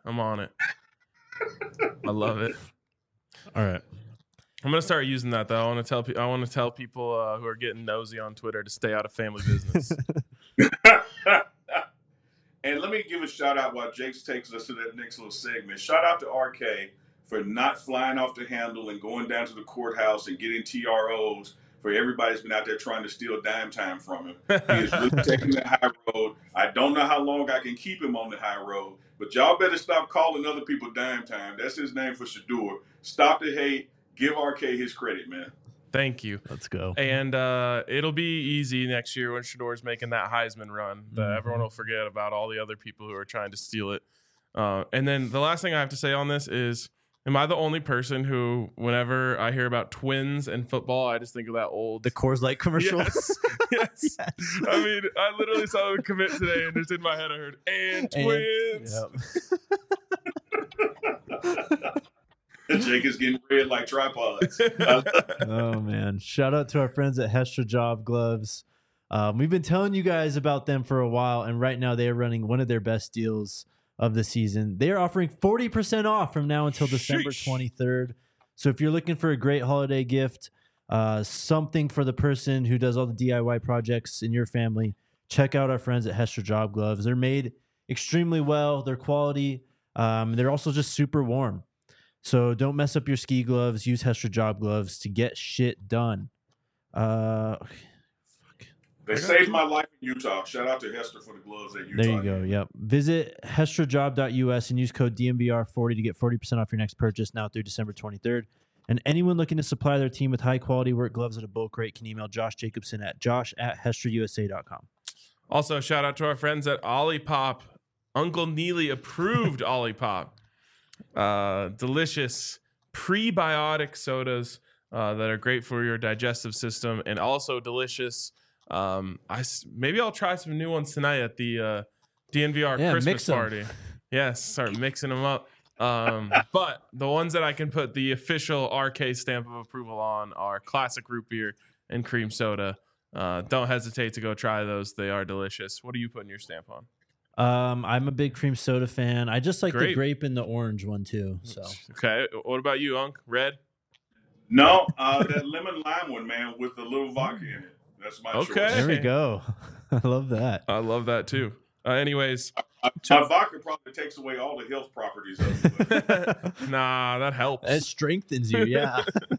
I love it. All right. I'm gonna start using that though. I want to tell people who are getting nosy on Twitter to stay out of family business. And let me give a shout out while Jakes takes us to that next little segment. Shout out to RK for not flying off the handle and going down to the courthouse and getting TROs for everybody's been out there trying to steal dime time from him. He is really taking the high road. I don't know how long I can keep him on the high road, but y'all better stop calling other people dime time. That's his name for Shedeur. Stop the hate. Give RK his credit, man. Thank you. Let's go. And it'll be easy next year when Shedeur's making that Heisman run. Everyone will forget about all the other people who are trying to steal it. And then the last thing I have to say on this is, am I the only person who, whenever I hear about twins and football, I just think of that the Coors Light commercial? Yes. Yes. I mean, I literally saw them commit today, and just in my head I heard, and twins. Yep. Jake is getting red like tripods. Oh, man. Shout out to our friends at Hestra Job Gloves. We've been telling you guys about them for a while, and right now they are running one of their best deals of the season. They are offering 40% off from now until December 23rd. So if you're looking for a great holiday gift, something for the person who does all the DIY projects in your family, check out our friends at Hestra Job Gloves. They're made extremely well. They're quality. They're also just super warm. So don't mess up your ski gloves. Use Hestra Job Gloves to get shit done. They saved my life in Utah. Shout out to Hestra for the gloves at Utah. There you go. Yep. Visit hestrajob.us and use code DMVR40 to get 40% off your next purchase now through December 23rd. And anyone looking to supply their team with high-quality work gloves at a bulk rate can email Josh Jacobson at josh@hestrausa.com. Also, shout out to our friends at Olipop. Uncle Neely approved Olipop. Delicious prebiotic sodas that are great for your digestive system, and also delicious. Maybe I'll try some new ones tonight at the DNVR Christmas party. Yes, start mixing them up. But the ones that I can put the official RK stamp of approval on are classic root beer and cream soda. Don't hesitate to go try those. They are delicious. What are you putting your stamp on? I'm a big cream soda fan. I just like the grape and the orange one too. So okay, what about you, Unc? Red? No, that lemon lime one, man, with a little vodka in it. That's my choice. There we go. I love that. I love that too. Anyways. My vodka probably takes away all the health properties of it. Nah, that helps. It strengthens you, yeah.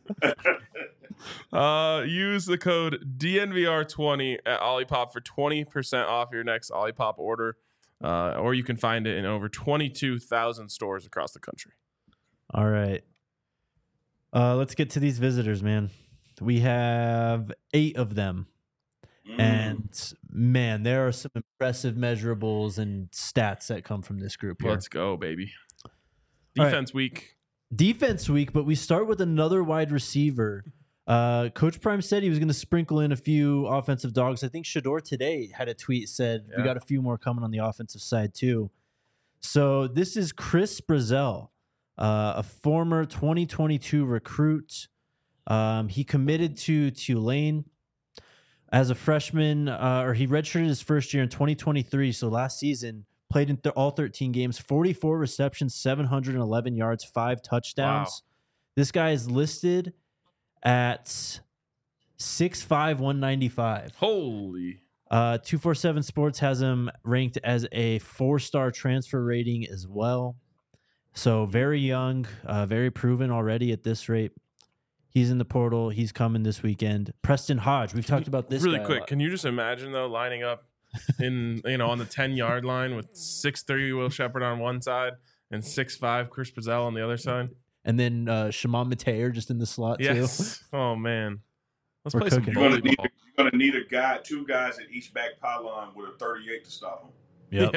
Use the code DNVR20 at Olipop for 20% off your next Olipop order. Or you can find it in over 22,000 stores across the country. All right. Let's get to these visitors, man. We have 8 of them. And, man, there are some impressive measurables and stats that come from this group here. Let's go, baby. Defense week. Defense week, but we start with another wide receiver. Coach Prime said he was going to sprinkle in a few offensive dogs. I think Shedeur today had a tweet said we got a few more coming on the offensive side too. So this is Chris Brazzell, a former 2022 recruit. He committed to Tulane as a freshman, or he redshirted his first year in 2023. So last season, played in all 13 games, 44 receptions, 711 yards, 5 touchdowns. Wow. This guy is listed at 6'5", 195. Holy. 247 Sports has him ranked as a 4-star transfer rating as well. So very young, very proven already at this rate. He's in the portal. He's coming this weekend. Preston Hodge. We've talked about this really guy quick. Can you just imagine though lining up in on the 10-yard line with 6'3" Will Shepherd on one side and 6'5" Chris Brazzell on the other side, and then Shimon Mateer just in the slot too. Oh man, let's We're play cooking. some You're volleyball. gonna need two guys at each back pylon with a 38 to stop him. Yep.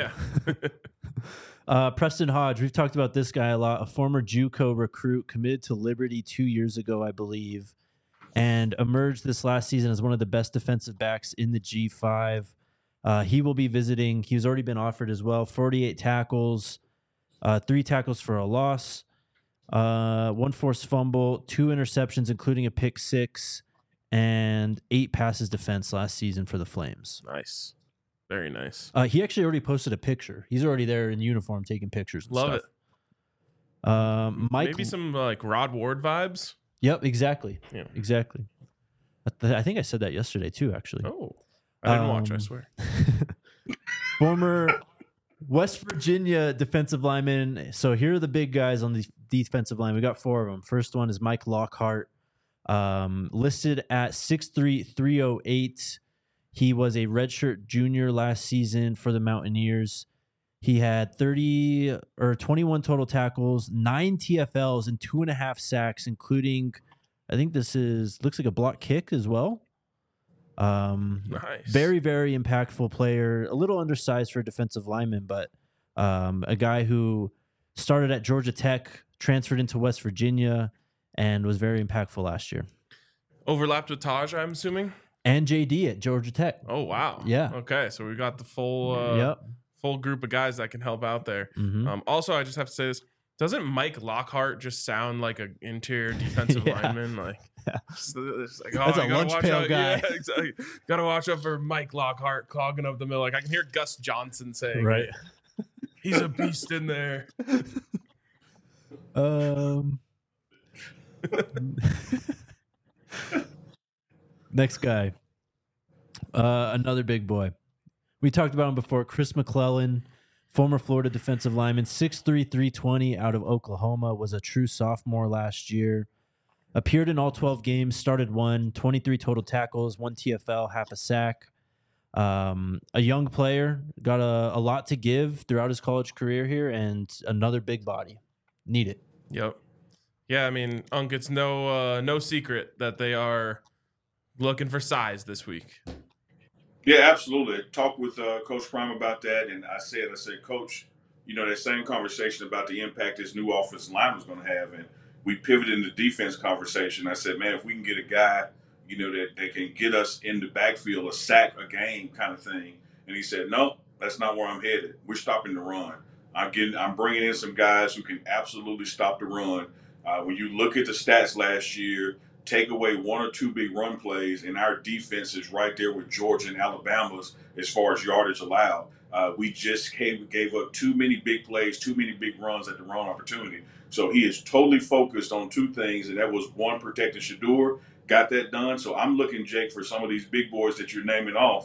Yeah. Preston Hodge, we've talked about this guy a lot, a former JUCO recruit, committed to Liberty 2 years ago, I believe, and emerged this last season as one of the best defensive backs in the G5. He will be visiting. He's already been offered as well. 48 tackles, 3 tackles for a loss, 1 forced fumble, 2 interceptions, including a pick 6, and 8 passes defense last season for the Flames. Nice. Very nice. He actually already posted a picture. He's already there in uniform taking pictures and Love stuff. it. Maybe some like Rod Ward vibes. Yep, exactly. Yeah. Exactly. I think I said that yesterday too, actually. Oh, I didn't watch, I swear. Former West Virginia defensive lineman. So here are the big guys on the defensive line. We got 4 of them. First one is Mike Lockhart, listed at 6'3", 308. He was a redshirt junior last season for the Mountaineers. He had 21 total tackles, 9 TFLs, and 2.5 sacks, including, I think this looks like a block kick as well. Nice. Very, very impactful player. A little undersized for a defensive lineman, but a guy who started at Georgia Tech, transferred into West Virginia, and was very impactful last year. Overlapped with Taj, I'm assuming? And JD at Georgia Tech. Oh, wow. Yeah. Okay, so we got the full group of guys that can help out there. Mm-hmm. Also, I just have to say this. Doesn't Mike Lockhart just sound like an interior defensive lineman? Like, just like, that's a lunch pail guy. Yeah, exactly. Got to watch out for Mike Lockhart clogging up the middle. Like I can hear Gus Johnson saying, right, he's a beast in there. Next guy, another big boy. We talked about him before. Chris McClellan, former Florida defensive lineman, 6'3", 320 out of Oklahoma, was a true sophomore last year. Appeared in all 12 games, started 23 total tackles, 1 TFL, half a sack. A young player, got a lot to give throughout his college career here, and another big body. Need it. Yep. Yeah, I mean, Unk, it's no secret that they are looking for size this week. Yeah, absolutely. I talked with Coach Prime about that, and I said, Coach, that same conversation about the impact this new offensive line was going to have, and we pivoted in the defense conversation. I said, man, if we can get a guy, that can get us in the backfield, a sack a game kind of thing. And he said, no, that's not where I'm headed. We're stopping the run. I'm bringing in some guys who can absolutely stop the run. When you look at the stats last year, take away 1 or 2 big run plays, and our defense is right there with Georgia and Alabama's as far as yardage allowed. We just gave up too many big plays, too many big runs at the wrong opportunity. So he is totally focused on 2 things, and that was 1, protecting Shedeur. Got that done. So I'm looking, Jake, for some of these big boys that you're naming off.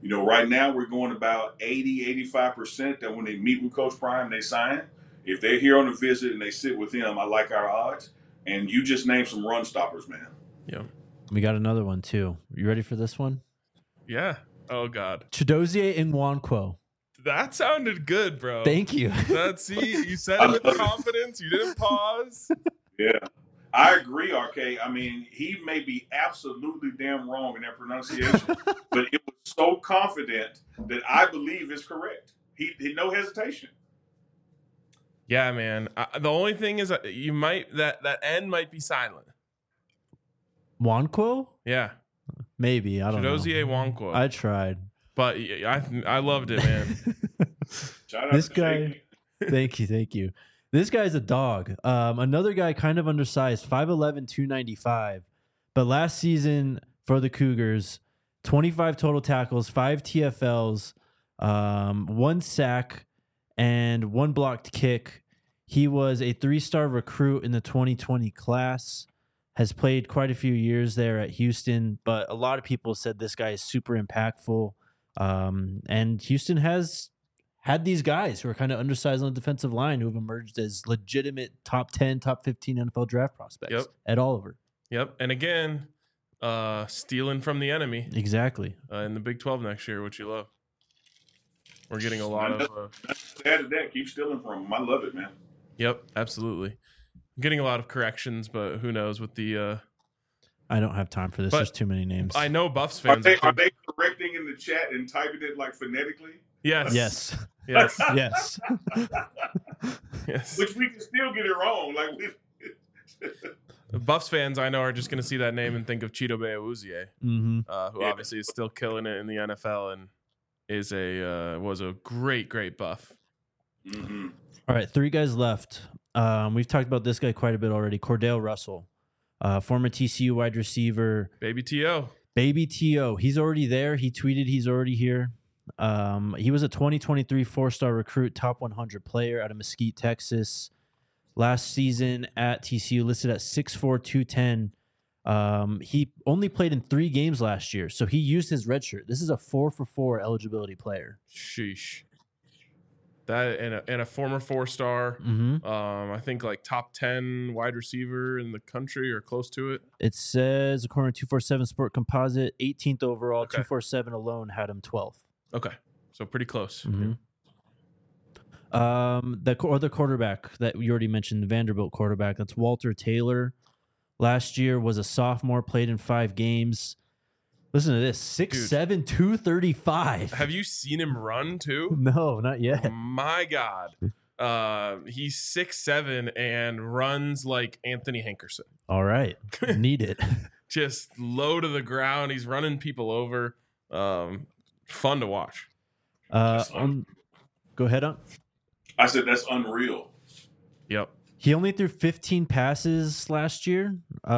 Right now we're going about 85% that when they meet with Coach Prime, they sign. If they're here on a visit and they sit with him, I like our odds. And you just named some run stoppers, man. Yeah. We got another one, too. You ready for this one? Yeah. Oh, God. Chidozie Nwankwo. That sounded good, bro. Thank you. You said it with confidence. You didn't pause. Yeah. I agree, RK. I mean, he may be absolutely damn wrong in that pronunciation, but it was so confident that I believe is correct. He no hesitation. Yeah, man. The only thing is that you might that N might be silent. Nwankwo? Yeah. Maybe. I don't know. Chidozie Nwankwo. I tried. But I loved it, man. Shout out this to guy. Thank you. This guy's a dog. Another guy kind of undersized, 5'11", 295. But last season for the Cougars, 25 total tackles, 5 TFLs, 1 sack, and 1 blocked kick. He was a 3-star recruit in the 2020 class, has played quite a few years there at Houston, but a lot of people said this guy is super impactful. And Houston has had these guys who are kind of undersized on the defensive line who have emerged as legitimate top 10, top 15 NFL draft prospects at Oliver. Yep. And again, stealing from the enemy. Exactly. In the Big 12 next year, which you love. We're getting a lot of... Add to that, keep stealing from him. I love it, man. Yep, absolutely. I'm getting a lot of corrections, but who knows with the... I don't have time for this. There's too many names. I know Buffs fans... Are they correcting in the chat and typing it like phonetically? Yes. Yes. Yes. Yes. Yes. Which we can still get it wrong. Buffs fans I know are just going to see that name and think of Chidobe Awuzie, who obviously is still killing it in the NFL and was a great Buff. Mm-hmm. All right, 3 guys left. We've talked about this guy quite a bit already. Cordell Russell, former TCU wide receiver. Baby T.O. He's already there. He tweeted he's already here. He was a 2023 4-star recruit, top 100 player out of Mesquite, Texas. Last season at TCU, listed at 6'4", 210. He only played in 3 games last year, so he used his red shirt. This is a 4-for-4 eligibility player. Sheesh. That and a former 4-star. I think like top 10 wide receiver in the country or close to it. It says, according to 247 Sport Composite, 18th overall. 247 alone had him 12th. Okay, so pretty close. The other quarterback that you already mentioned, the Vanderbilt quarterback, that's Walter Taylor. Last year was a sophomore, played in 5 games. Listen to this, 6'7", 235. Have you seen him run too? No, not yet. My God. He's 6'7" and runs like Anthony Hankerson. All right. Need it. Just low to the ground. He's running people over. Fun to watch. Go ahead on. I said that's unreal. Yep. He only threw 15 passes last year.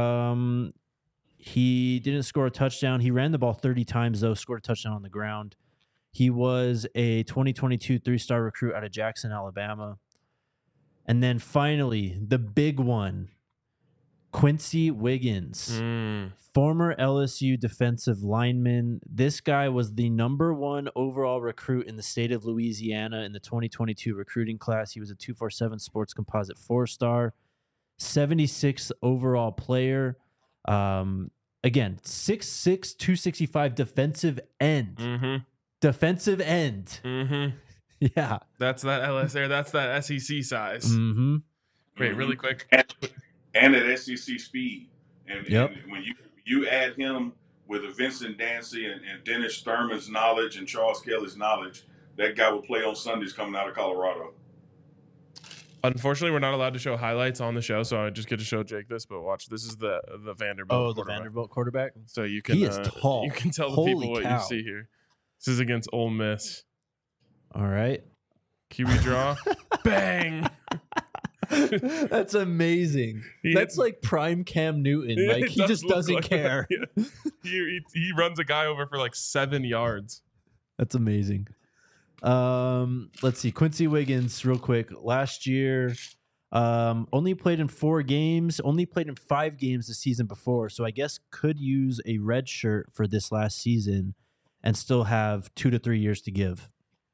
He didn't score a touchdown. He ran the ball 30 times, though, scored a touchdown on the ground. He was a 2022 3-star recruit out of Jackson, Alabama. And then finally, the big one, Quincy Wiggins, former LSU defensive lineman. This guy was the #1 overall recruit in the state of Louisiana in the 2022 recruiting class. He was a 247 Sports Composite 4-star, 76th overall player. Again, 6'6", 265 defensive end. Defensive end. Yeah. That's that LSU. That's that SEC size. Wait, really quick. And at SEC speed. And when you add him with a Vincent Dancy and Dennis Thurman's knowledge and Charles Kelly's knowledge, that guy will play on Sundays coming out of Colorado. Unfortunately, we're not allowed to show highlights on the show, so I just get to show Jake this. But watch, this is the Vanderbilt. The Vanderbilt quarterback. So you can he is tall. You can tell the people what you see here. This is against Ole Miss. All right. QB draw. Bang. That's amazing. That's like prime Cam Newton. Like he just doesn't care. He runs a guy over for like 7 yards. That's amazing. Let's see. Quincy Wiggins, real quick. Last year, only played in 4 games. Only played in 5 games the season before. So I guess could use a red shirt for this last season. and still have 2 to 3 years to give.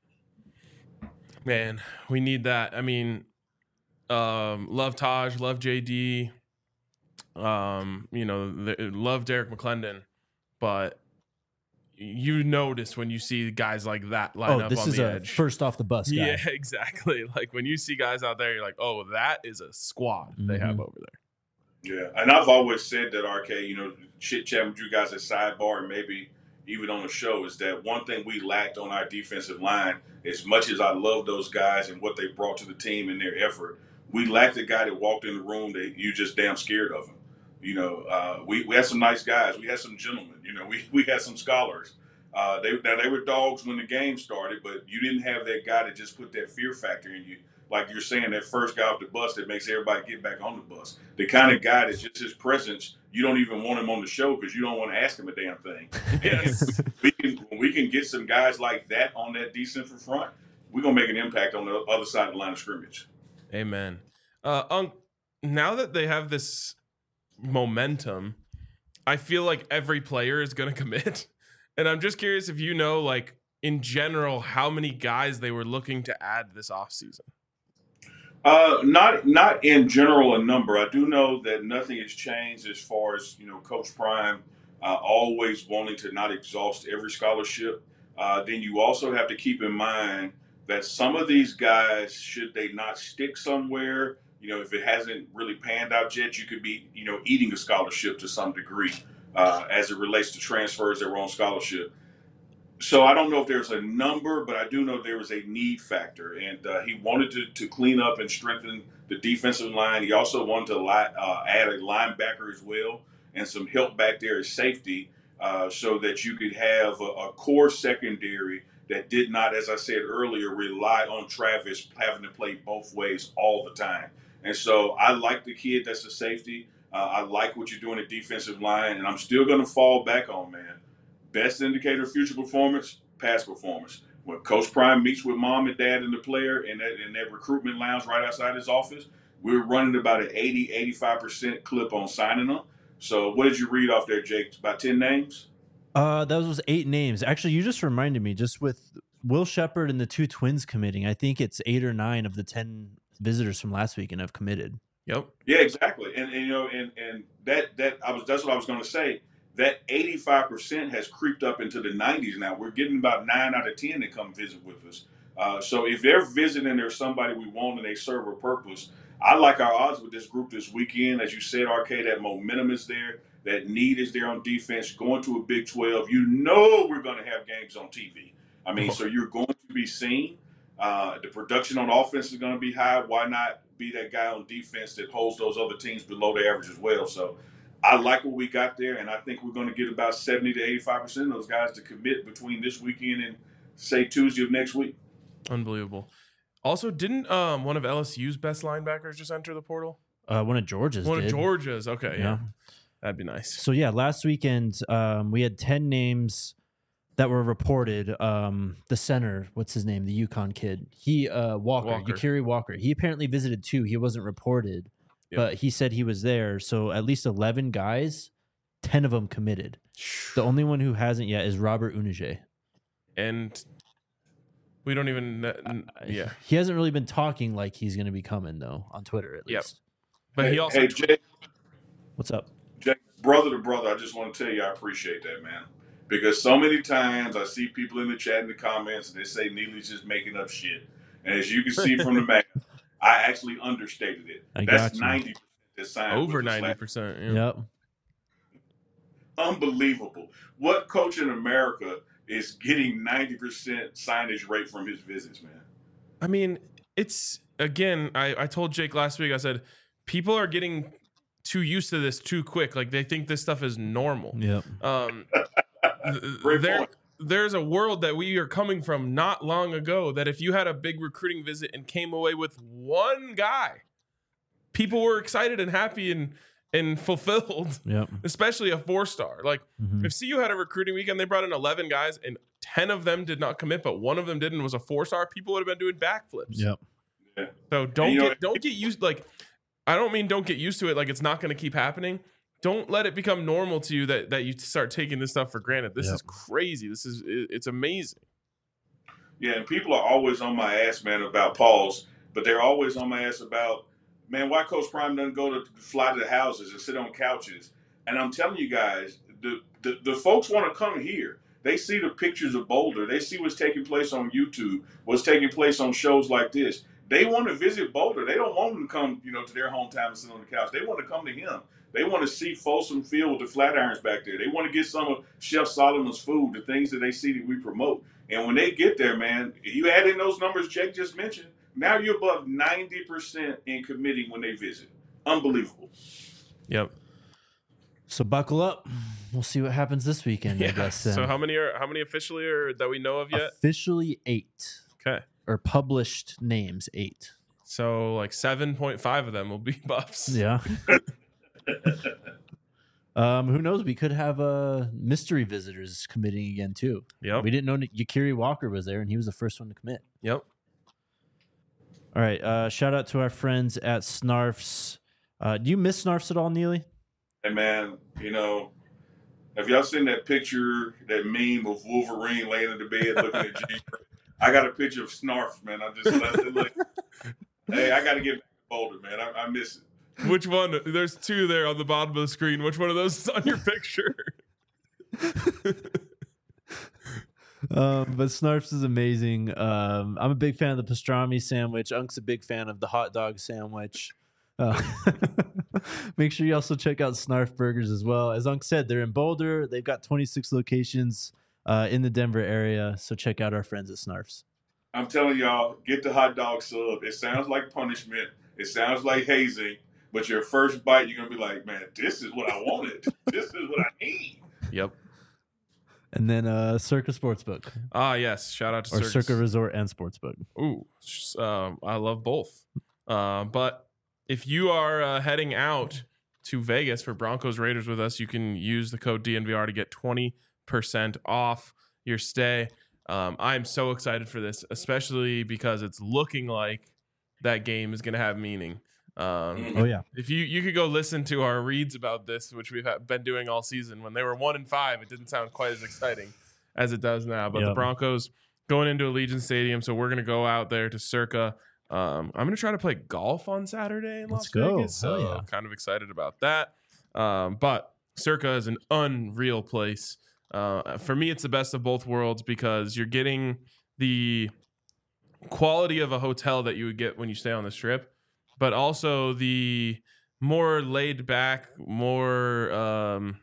Man, we need that. I mean, love Taj, love JD, love Derek McClendon, but you notice when you see guys like that line up on the edge. First off the bus guy. Yeah, exactly. Like when you see guys out there, you're like, oh, that is a squad they have over there. Yeah, and I've always said that, RK, chit chat with you guys at sidebar and maybe even on the show, is that one thing we lacked on our defensive line, as much as I love those guys and what they brought to the team and their effort, we lacked a guy that walked in the room that you just damn scared of him. We had some nice guys. We had some gentlemen. We had some scholars. They were dogs when the game started, but you didn't have that guy that just put that fear factor in you. Like you're saying, that first guy off the bus that makes everybody get back on the bus. The kind of guy that's just his presence, you don't even want him on the show because you don't want to ask him a damn thing. Yes. we can get some guys like that on that defensive front, we're going to make an impact on the other side of the line of scrimmage. Amen. Now that they have this momentum, I feel like every player is going to commit. And I'm just curious if like in general, how many guys they were looking to add this offseason. Not in general a number. I do know that nothing has changed as far as Coach Prime always wanting to not exhaust every scholarship. Then you also have to keep in mind that some of these guys, should they not stick somewhere, if it hasn't really panned out yet, you could be eating a scholarship to some degree as it relates to transfers that were on scholarship. So I don't know if there's a number, but I do know there was a need factor, and he wanted to clean up and strengthen the defensive line. He also wanted to add a linebacker as well and some help back there as safety, so that you could have a core secondary that did not, as I said earlier, rely on Travis having to play both ways all the time. And so I like the kid that's a safety. I like what you're doing at defensive line, and I'm still going to fall back on, man. Best indicator of future performance, past performance. When Coach Prime meets with mom and dad and the player in that recruitment lounge right outside his office, we're running about an 80-85% clip on signing them. So what did you read off there, Jake? About 10 names? That was 8 names. Actually, you just reminded me, just with Will Shepherd and the 2 twins committing, I think it's 8 or 9 of the 10 visitors from last weekend have committed. Yep. Yeah, exactly. And that's what I was going to say. That 85% has creeped up into the 90s now. We're getting about 9 out of 10 that come visit with us. So if they're visiting, there's somebody we want and they serve a purpose. I like our odds with this group this weekend. As you said, RK, that momentum is there. That need is there on defense. Going to a Big 12, we're going to have games on TV. I mean, so you're going to be seen. The production on offense is going to be high. Why not be that guy on defense that holds those other teams below the average as well? So I like what we got there, and I think we're going to get about 70 to 85% of those guys to commit between this weekend and, say, Tuesday of next week. Unbelievable. Also, didn't one of LSU's best linebackers just enter the portal? One of Georgia's One of Georgia's. Okay, yeah. That'd be nice. So, yeah, last weekend we had 10 names that were reported. The center, what's his name? The UConn kid. Yakiri Walker. He apparently visited 2. He wasn't reported. Yep. But he said he was there. So at least 11 guys, 10 of them committed. The only one who hasn't yet is Robert Unije. And we don't even... He hasn't really been talking like he's going to be coming, though, on Twitter at least. But he also... Hey, Jake. What's up? Jake, brother to brother, I just want to tell you I appreciate that, man. Because so many times I see people in the chat in the comments and they say Neely's just making up shit. And as you can see from the back, I actually understated it. That's 90% that signed. Over 90%. Yeah. Yep. Unbelievable. What coach in America is getting 90% signage rate from his visits, man? I mean, it's, again, I told Jake last week, I said, people are getting too used to this too quick. Like, they think this stuff is normal. Yep. There's a world that we are coming from not long ago that if you had a big recruiting visit and came away with one guy, people were excited and happy and fulfilled. Yep. Especially a 4-star. Like if CU had a recruiting weekend, they brought in 11 guys and 10 of them did not commit, but one of them didn't, was a 4-star. People would have been doing backflips. Yep. So don't get used. Like, I don't mean don't get used to it. Like it's not going to keep happening, don't let it become normal to you that you start taking this stuff for granted. This is crazy. It's amazing. Yeah, and people are always on my ass, man, about Pauls, but they're always on my ass about, man, why Coach Prime doesn't go to fly to the houses and sit on couches. And I'm telling you guys, the folks want to come here. They see the pictures of Boulder. They see what's taking place on YouTube, what's taking place on shows like this. They want to visit Boulder. They don't want them to come, to their hometown and sit on the couch. They want to come to him. They want to see Folsom Field with the Flatirons back there. They want to get some of Chef Solomon's food, the things that they see that we promote. And when they get there, man, you add in those numbers Jake just mentioned, now you're above 90% in committing when they visit. Unbelievable. Yep. So buckle up. We'll see what happens this weekend, I guess. So how many officially are that we know of yet? Officially 8. Okay. Or published names 8. So like 7.5 of them will be Buffs. Yeah. Who knows? We could have mystery visitors committing again too. Yep. We didn't know Yakiri Walker was there, and he was the first one to commit. Yep. All right. Shout out to our friends at Snarfs. Do you miss Snarfs at all, Neely? Hey man, have y'all seen that picture, that meme of Wolverine laying in the bed looking at Jeeper? I got a picture of Snarfs, man. I'm just like, hey, I got to get back to Boulder, man. I miss it. Which one? There's 2 there on the bottom of the screen. Which one of those is on your picture? But Snarfs is amazing. I'm a big fan of the pastrami sandwich. Unk's a big fan of the hot dog sandwich. Make sure you also check out Snarf Burgers as well. As Unk said, they're in Boulder. They've got 26 locations in the Denver area. So check out our friends at Snarfs. I'm telling y'all, get the hot dog sub. It sounds like punishment. It sounds like hazing. But your first bite, you're going to be like, man, this is what I wanted. This is what I need. Yep. And then Circa Sportsbook. Yes. Shout out to Circa. Or Circa Resort and Sportsbook. Ooh, I love both. But if you are heading out to Vegas for Broncos Raiders with us, you can use the code DNVR to get 20% off your stay. I'm so excited for this, especially because it's looking like that game is going to have meaning. If you could go listen to our reads about this, which we've been doing all season. When they were 1-5, it didn't sound quite as exciting as it does now. But the Broncos going into Allegiant Stadium, so we're going to go out there to Circa. I'm going to try to play golf on Saturday in Las Vegas. So I'm kind of excited about that. But Circa is an unreal place. For me, it's the best of both worlds because you're getting the quality of a hotel that you would get when you stay on the Strip, but also the more laid back, more a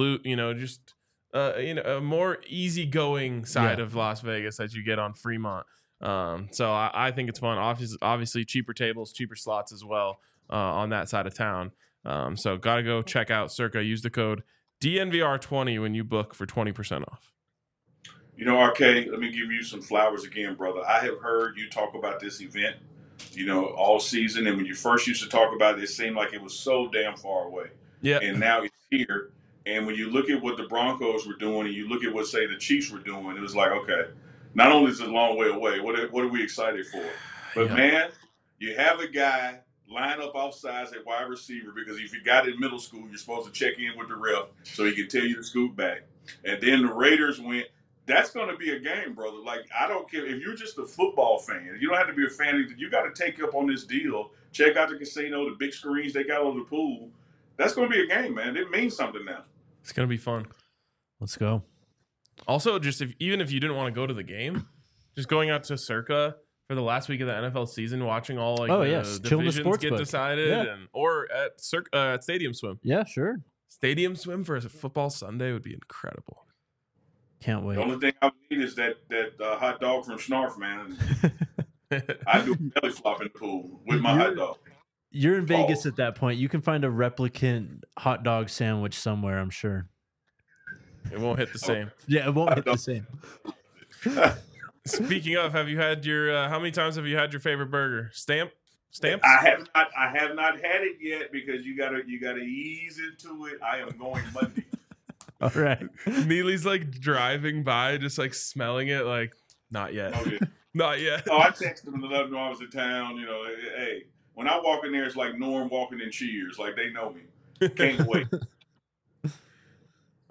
more easygoing side of Las Vegas that you get on Fremont. So I think it's fun. Obviously, cheaper tables, cheaper slots as well on that side of town. So got to go check out Circa. Use the code DNVR20 when you book for 20% off. RK, let me give you some flowers again, brother. I have heard you talk about this event, all season. And when you first used to talk about it, it seemed like it was so damn far away. Yeah. And now it's here. And when you look at what the Broncos were doing and you look at what, say, the Chiefs were doing, it was like, okay, not only is it a long way away, what are we excited for? But, man, you have a guy line up off sides at wide receiver because if you got it in middle school, you're supposed to check in with the ref so he can tell you to scoot back. And then the Raiders went. That's going to be a game, brother. Like, I don't care. If you're just a football fan, you don't have to be a fan. You got to take up on this deal. Check out the casino, the big screens they got on the pool. That's going to be a game, man. It means something now. It's going to be fun. Let's go. Also, just even if you didn't want to go to the game, just going out to Circa for the last week of the NFL season, watching all the divisions get decided, or at Stadium Swim. Yeah, sure. Stadium Swim for a football Sunday would be incredible. Can't wait. The only thing I would need is that hot dog from Snarf, man. I do belly flop in the pool with my hot dog. You're in Vegas at that point. You can find a replicant hot dog sandwich somewhere, I'm sure. It won't hit the same. Yeah, it won't hit the same. Speaking of, have you had your? How many times have you had your favorite burger? Stamps? I have not had it yet because you gotta ease into it. I am going Monday. All right. Neely's like driving by, just like smelling it, like not yet, not yet. I texted him to let him know I was in town. Hey, when I walk in there, it's like Norm walking in Cheers. Like they know me. Can't wait.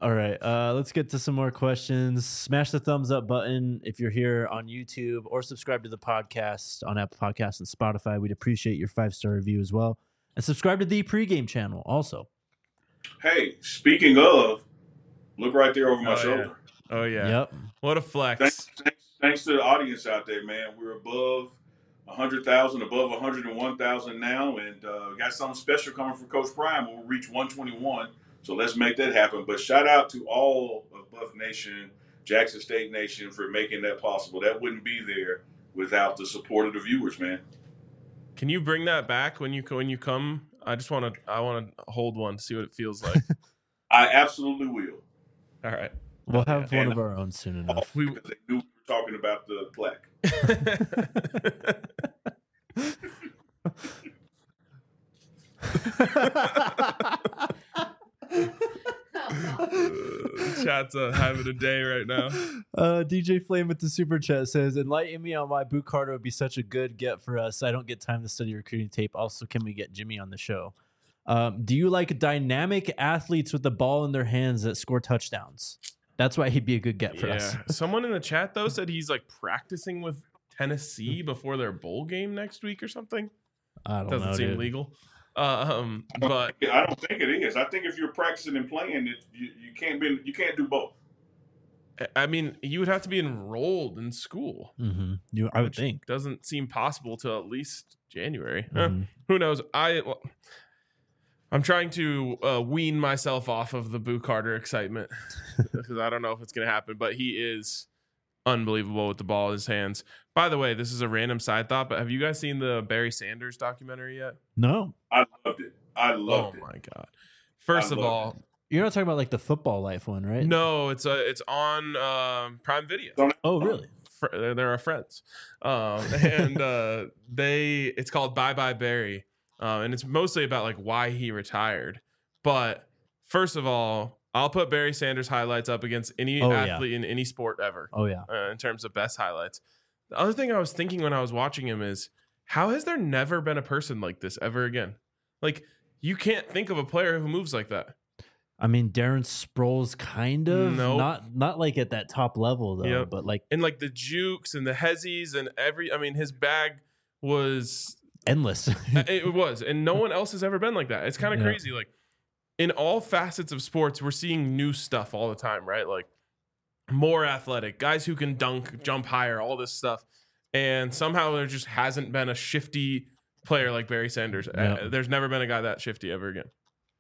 All right, let's get to some more questions. Smash the thumbs up button if you're here on YouTube, or subscribe to the podcast on Apple Podcasts and Spotify. We'd appreciate your 5-star review as well. And subscribe to the pregame channel also. Hey, speaking of, look right there over my shoulder. Yeah. Oh, yeah. Yep. What a flex. Thanks to the audience out there, man. We're above 100,000, above 101,000 now, and we got something special coming from Coach Prime when we reach 121. So let's make that happen. But shout out to all of Buff Nation, Jackson State Nation for making that possible. That wouldn't be there without the support of the viewers, man. Can you bring that back when you come? I want to hold one, see what it feels like. I absolutely will. All right. We'll have one of our own soon enough. They knew we were talking about the plaque. Chat's having a day right now. DJ Flame with the super chat says, "Enlighten me on why Boot Carter would be such a good get for us. I don't get time to study recruiting tape. Also, can we get Jimmy on the show? Do you like dynamic athletes with the ball in their hands that score touchdowns? That's why he'd be a good get for us." Someone in the chat though said he's like practicing with Tennessee before their bowl game next week or something. I don't Doesn't know, seem dude. legal. But I don't think it is. I think if you're practicing and playing, you can't do both. I mean, you would have to be enrolled in school. Mm-hmm. I would think. Doesn't seem possible till at least January. Who knows? I'm trying to wean myself off of the Boo Carter excitement because I don't know if it's going to happen, but he is unbelievable with the ball in his hands. By the way, this is a random side thought, but have you guys seen the Barry Sanders documentary yet? No. I loved it. Oh my God. First of all, you're not talking about like the football life one, right? No, it's on Prime Video. Oh, really? They're our friends. It's called Bye Bye Barry. And it's mostly about like why he retired. But first of all, I'll put Barry Sanders highlights up against any athlete in any sport ever. Oh, yeah. In terms of best highlights. The other thing I was thinking when I was watching him is, how has there never been a person like this ever again? Like, you can't think of a player who moves like that. I mean, Darren Sproles kind of. Nope. Not like at that top level, though. But like. And like the jukes and the hezzies and his bag was endless. It was. And no one else has ever been like that. It's kind of crazy. Like, in all facets of sports, we're seeing new stuff all the time, right? Like more athletic, guys who can dunk, jump higher, all this stuff. And somehow there just hasn't been a shifty player like Barry Sanders. There's never been a guy that shifty ever again.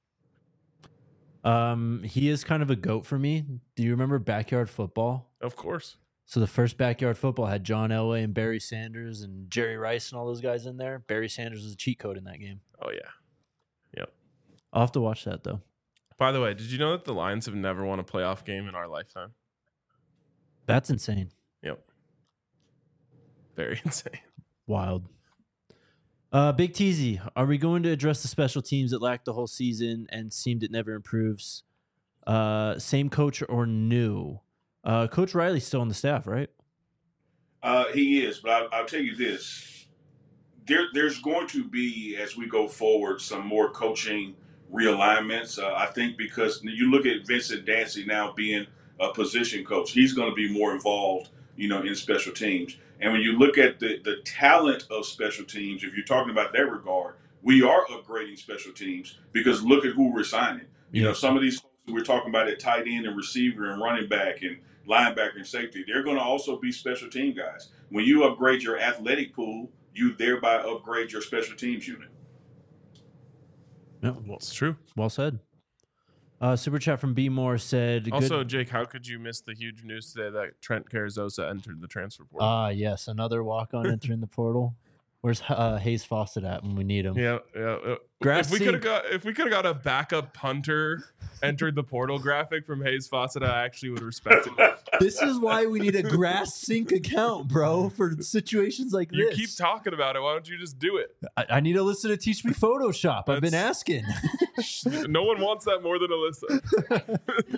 He is kind of a GOAT for me. Do you remember Backyard Football? Of course. So the first Backyard Football had John Elway and Barry Sanders and Jerry Rice and all those guys in there. Barry Sanders was a cheat code in that game. Oh, yeah. Yep. I'll have to watch that, though. By the way, did you know that the Lions have never won a playoff game in our lifetime? That's insane. Yep. Very insane. Wild. Big Teasy, are we going to address the special teams that lacked the whole season and seemed it never improves? Same coach or new? Coach Riley's still on the staff, right? He is, but I'll tell you this. There's going to be, as we go forward, some more coaching realignments. I think because you look at Vincent Dancy now being a position coach, he's going to be more involved, in special teams. And when you look at the talent of special teams, if you're talking about that regard, we are upgrading special teams because look at who we're signing. Some of these folks that we're talking about at tight end and receiver and running back and linebacker and safety, they're going to also be special team guys. When you upgrade your athletic pool, you thereby upgrade your special teams unit. Yeah, well, it's true. Well said. Super chat from B Moore said. Also, Jake, how could you miss the huge news today that Trent Carrizosa entered the transfer portal? Yes, another walk-on entering the portal. Where's Hayes Fawcett at when we need him? Yeah. If we could have got a backup punter entered the portal graphic from Hayes Fawcett, I actually would respect it. This is why we need a Grass Sync account, bro, for situations like you this. You keep talking about it. Why don't you just do it? I need Alyssa to teach me Photoshop. I've been asking. No one wants that more than Alyssa.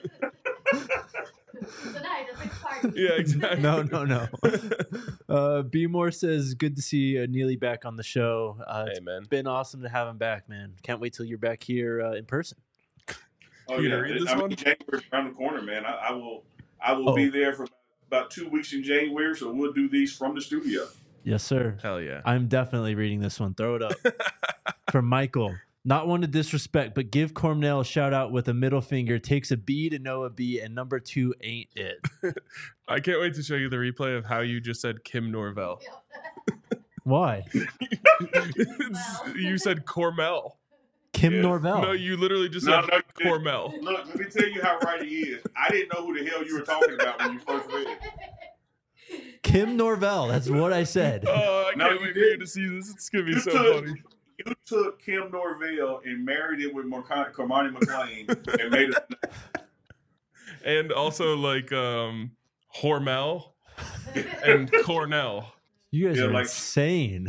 Tonight at the party. Yeah, exactly. No. B Moore says, good to see Neely back on the show. Hey, man. It's been awesome to have him back, man. Can't wait till you're back here in person. Oh You yeah, read this one? January's around the corner, man. I will be there for about 2 weeks in January, so we'll do these from the studio. Yes, sir. Hell yeah. I'm definitely reading this one. Throw it up. From Michael. Not one to disrespect, but give Cornell a shout out with a middle finger. Takes a B to know a B, and number 2 ain't it. I can't wait to show you the replay of how you just said Kim Norvell. Why? You said Cormel. Kim Norvell. No, you literally just said Cormel. Look, let me tell you how right he is. I didn't know who the hell you were talking about when you first read it. Kim Norvell. That's what I said. Oh, I can't wait for you to see this. It's going to be so funny. You took Kim Norvell and married it with Cormani McLean and made it. And also like Hormel and Cornell. You guys are insane.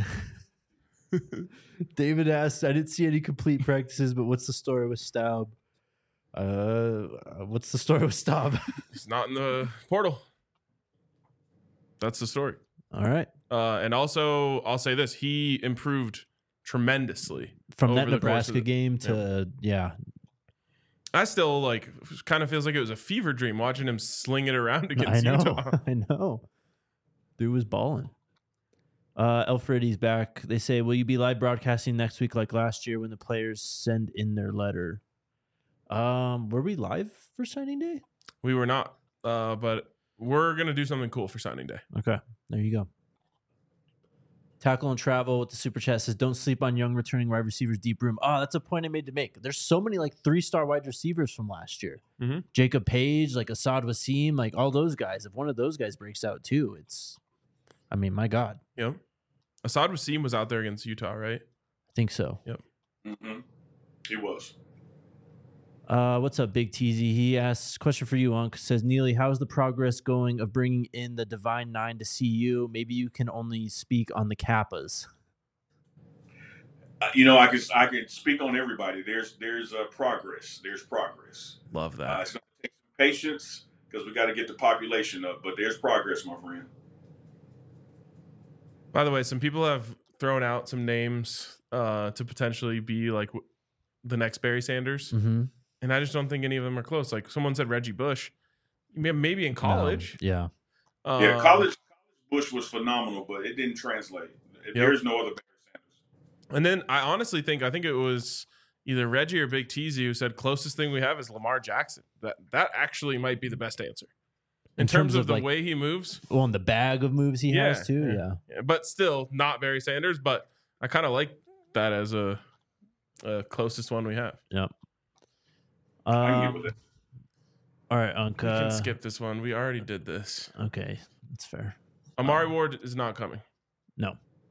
David asked, I didn't see any complete practices, but what's the story with Staub? What's the story with Staub? He's not in the portal. That's the story. All right. And also, I'll say this. He improved tremendously. From that Nebraska game to, I still kind of feels like it was a fever dream watching him sling it around against Utah. I know. Dude was balling. Elfredi's back. They say, will you be live broadcasting next week like last year when the players send in their letter? Were we live for signing day? We were not, but we're going to do something cool for signing day. Okay, there you go. Tackle and Travel with the super chat says, don't sleep on young returning wide receivers deep room. Oh, that's a point I made to make. There's so many 3-star wide receivers from last year. Mm-hmm. Jacob Page, Asad Wasim, all those guys. If one of those guys breaks out too, my God. Yep. Asad Wasim was out there against Utah, right? I think so. Yep. Mm-hmm. He was. What's up, Big Teasy? He asks, question for you, Unc. Says, Neely, how's the progress going of bringing in the Divine Nine to CU? Maybe you can only speak on the Kappas. I can speak on everybody. There's progress. There's progress. Love that. It's going to take some patience because we got to get the population up, but there's progress, my friend. By the way, some people have thrown out some names to potentially be the next Barry Sanders. Mm-hmm. And I just don't think any of them are close. Someone said Reggie Bush, maybe in college. No. Yeah. College Bush was phenomenal, but it didn't translate. There's no other Barry Sanders. And then I think it was either Reggie or Big Teasy who said closest thing we have is Lamar Jackson. That actually might be the best answer. In terms of the way he moves. Well, and the bag of moves he has too. Yeah. But still not Barry Sanders, but I kind of like that as a closest one we have. Yep. I can get with it. All right, Unc. We can skip this one. We already did this. Okay, that's fair. Amari Ward is not coming. No.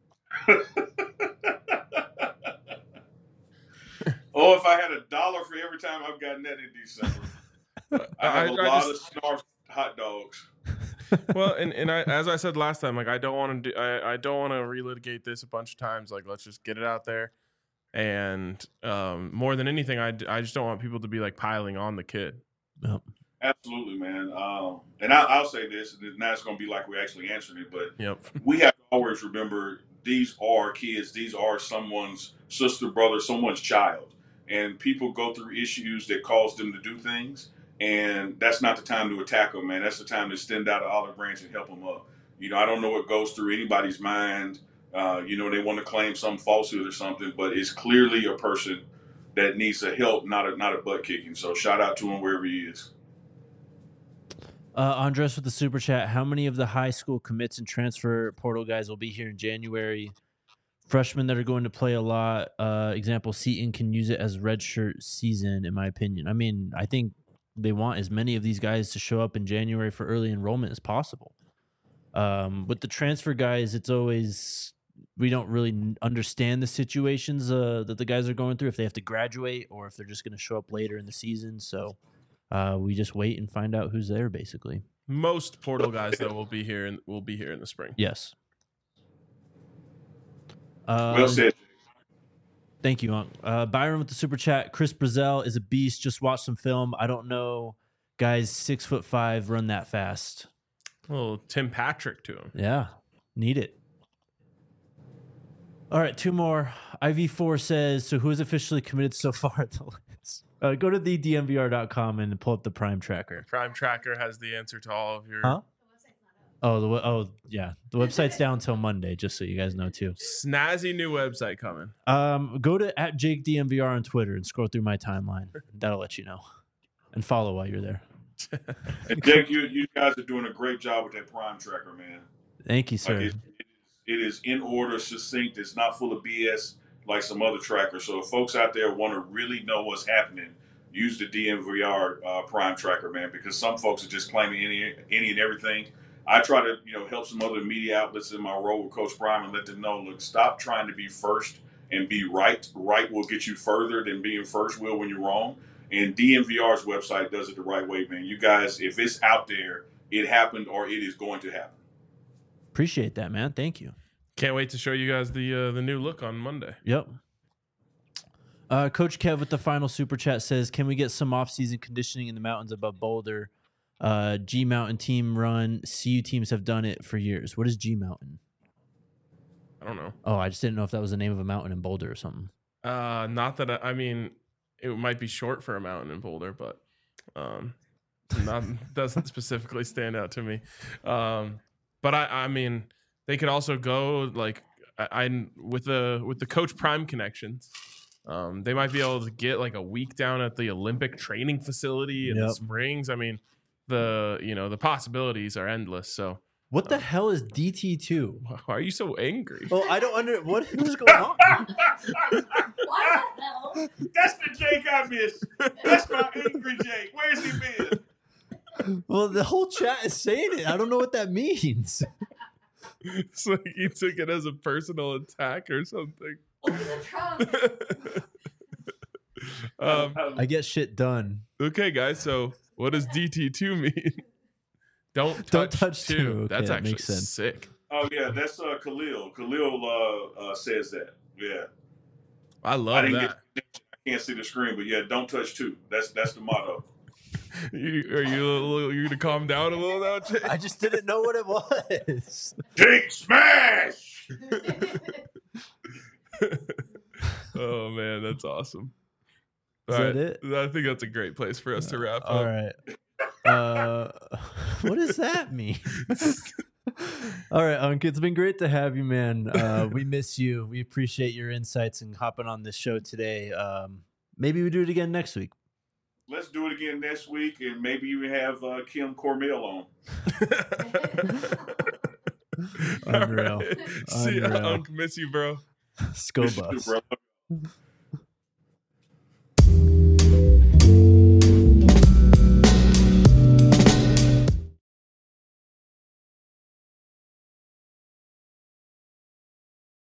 Oh, if I had $1 for every time I've gotten that in December. I have a lot of snarf hot dogs. Well, and as I said last time, I don't want to relitigate this a bunch of times. Let's just get it out there. And more than anything, I just don't want people to be piling on the kid. Yep. Absolutely, man. And I'll say this, and now it's going to be like we're actually answering it, but we have to always remember these are kids. These are someone's sister, brother, someone's child. And people go through issues that cause them to do things. And that's not the time to attack them, man. That's the time to extend out an olive branch and help them up. I don't know what goes through anybody's mind. They want to claim some falsehood or something, but it's clearly a person that needs a help, not a butt kicking. So shout out to him wherever he is. Andres with the super chat. How many of the high school commits and transfer portal guys will be here in January? Freshmen that are going to play a lot. Example, Seton can use it as redshirt season, in my opinion. I think they want as many of these guys to show up in January for early enrollment as possible. With the transfer guys, it's always, we don't really understand the situations that the guys are going through, if they have to graduate or if they're just going to show up later in the season. So we just wait and find out who's there, basically. Most portal guys, though, will be here in the spring. Yes. Well said. Thank you, Byron with the super chat. Chris Brazel is a beast. Just watch some film. I don't know guys 6'5" run that fast. Well, Tim Patrick to him. Yeah, need it. All right, 2 more. IV4 says, so who is officially committed so far at the list? Go to thedmvr.com and pull up the Prime Tracker. Prime Tracker has the answer to all of your. Huh? Yeah. The website's down until Monday, just so you guys know too. Snazzy new website coming. Go to @JakeDMVR on Twitter and scroll through my timeline. That'll let you know. And follow while you're there. And Jake, you guys are doing a great job with that Prime Tracker, man. Thank you, sir. Like it is in order, succinct. It's not full of BS like some other trackers. So if folks out there want to really know what's happening, use the DMVR Prime Tracker, man, because some folks are just claiming any and everything. I try to, help some other media outlets in my role with Coach Prime and let them know, look, stop trying to be first and be right. Right will get you further than being first will when you're wrong. And DMVR's website does it the right way, man. You guys, if it's out there, it happened or it is going to happen. Appreciate that, man. Thank you. Can't wait to show you guys the new look on Monday. Yep. Coach Kev with the final super chat says, can we get some off-season conditioning in the mountains above Boulder? G Mountain team run. CU teams have done it for years. What is G Mountain? I don't know. Oh, I just didn't know if that was the name of a mountain in Boulder or something. Not that I mean, it might be short for a mountain in Boulder, but doesn't specifically stand out to me. But I mean, they could also go like with the Coach Prime connections. They might be able to get like a week down at the Olympic training facility in the Springs. I mean, the possibilities are endless. So what the hell is DT2? Why are you so angry? Well, I don't what is going on? What the hell? That's the Jake I miss. That's my angry Jake. Where's he been? Well, the whole chat is saying it. I don't know what that means. It's like you took it as a personal attack or something. Open the trunk. I get shit done. Okay, guys. So what does DT2 mean? Don't touch two. Okay, That's that actually makes sense. sick. Oh yeah, that's Khalil. Khalil says that. Yeah. I love that. I can't see the screen, but yeah, don't touch two. That's the motto. Are you gonna calm down a little now, Jake? I just didn't know what it was. Jake smash. Oh man, that's awesome. Is that it? I think that's a great place for us to wrap up. All right. What does that mean? All right, Unc, it's been great to have you, man. We miss you. We appreciate your insights and hopping on this show today. Maybe we do it again next week. Let's do it again next week, and maybe even have Kim Cormel on. Unreal. Right. See ya, Unc. Miss you, bro. Scoba.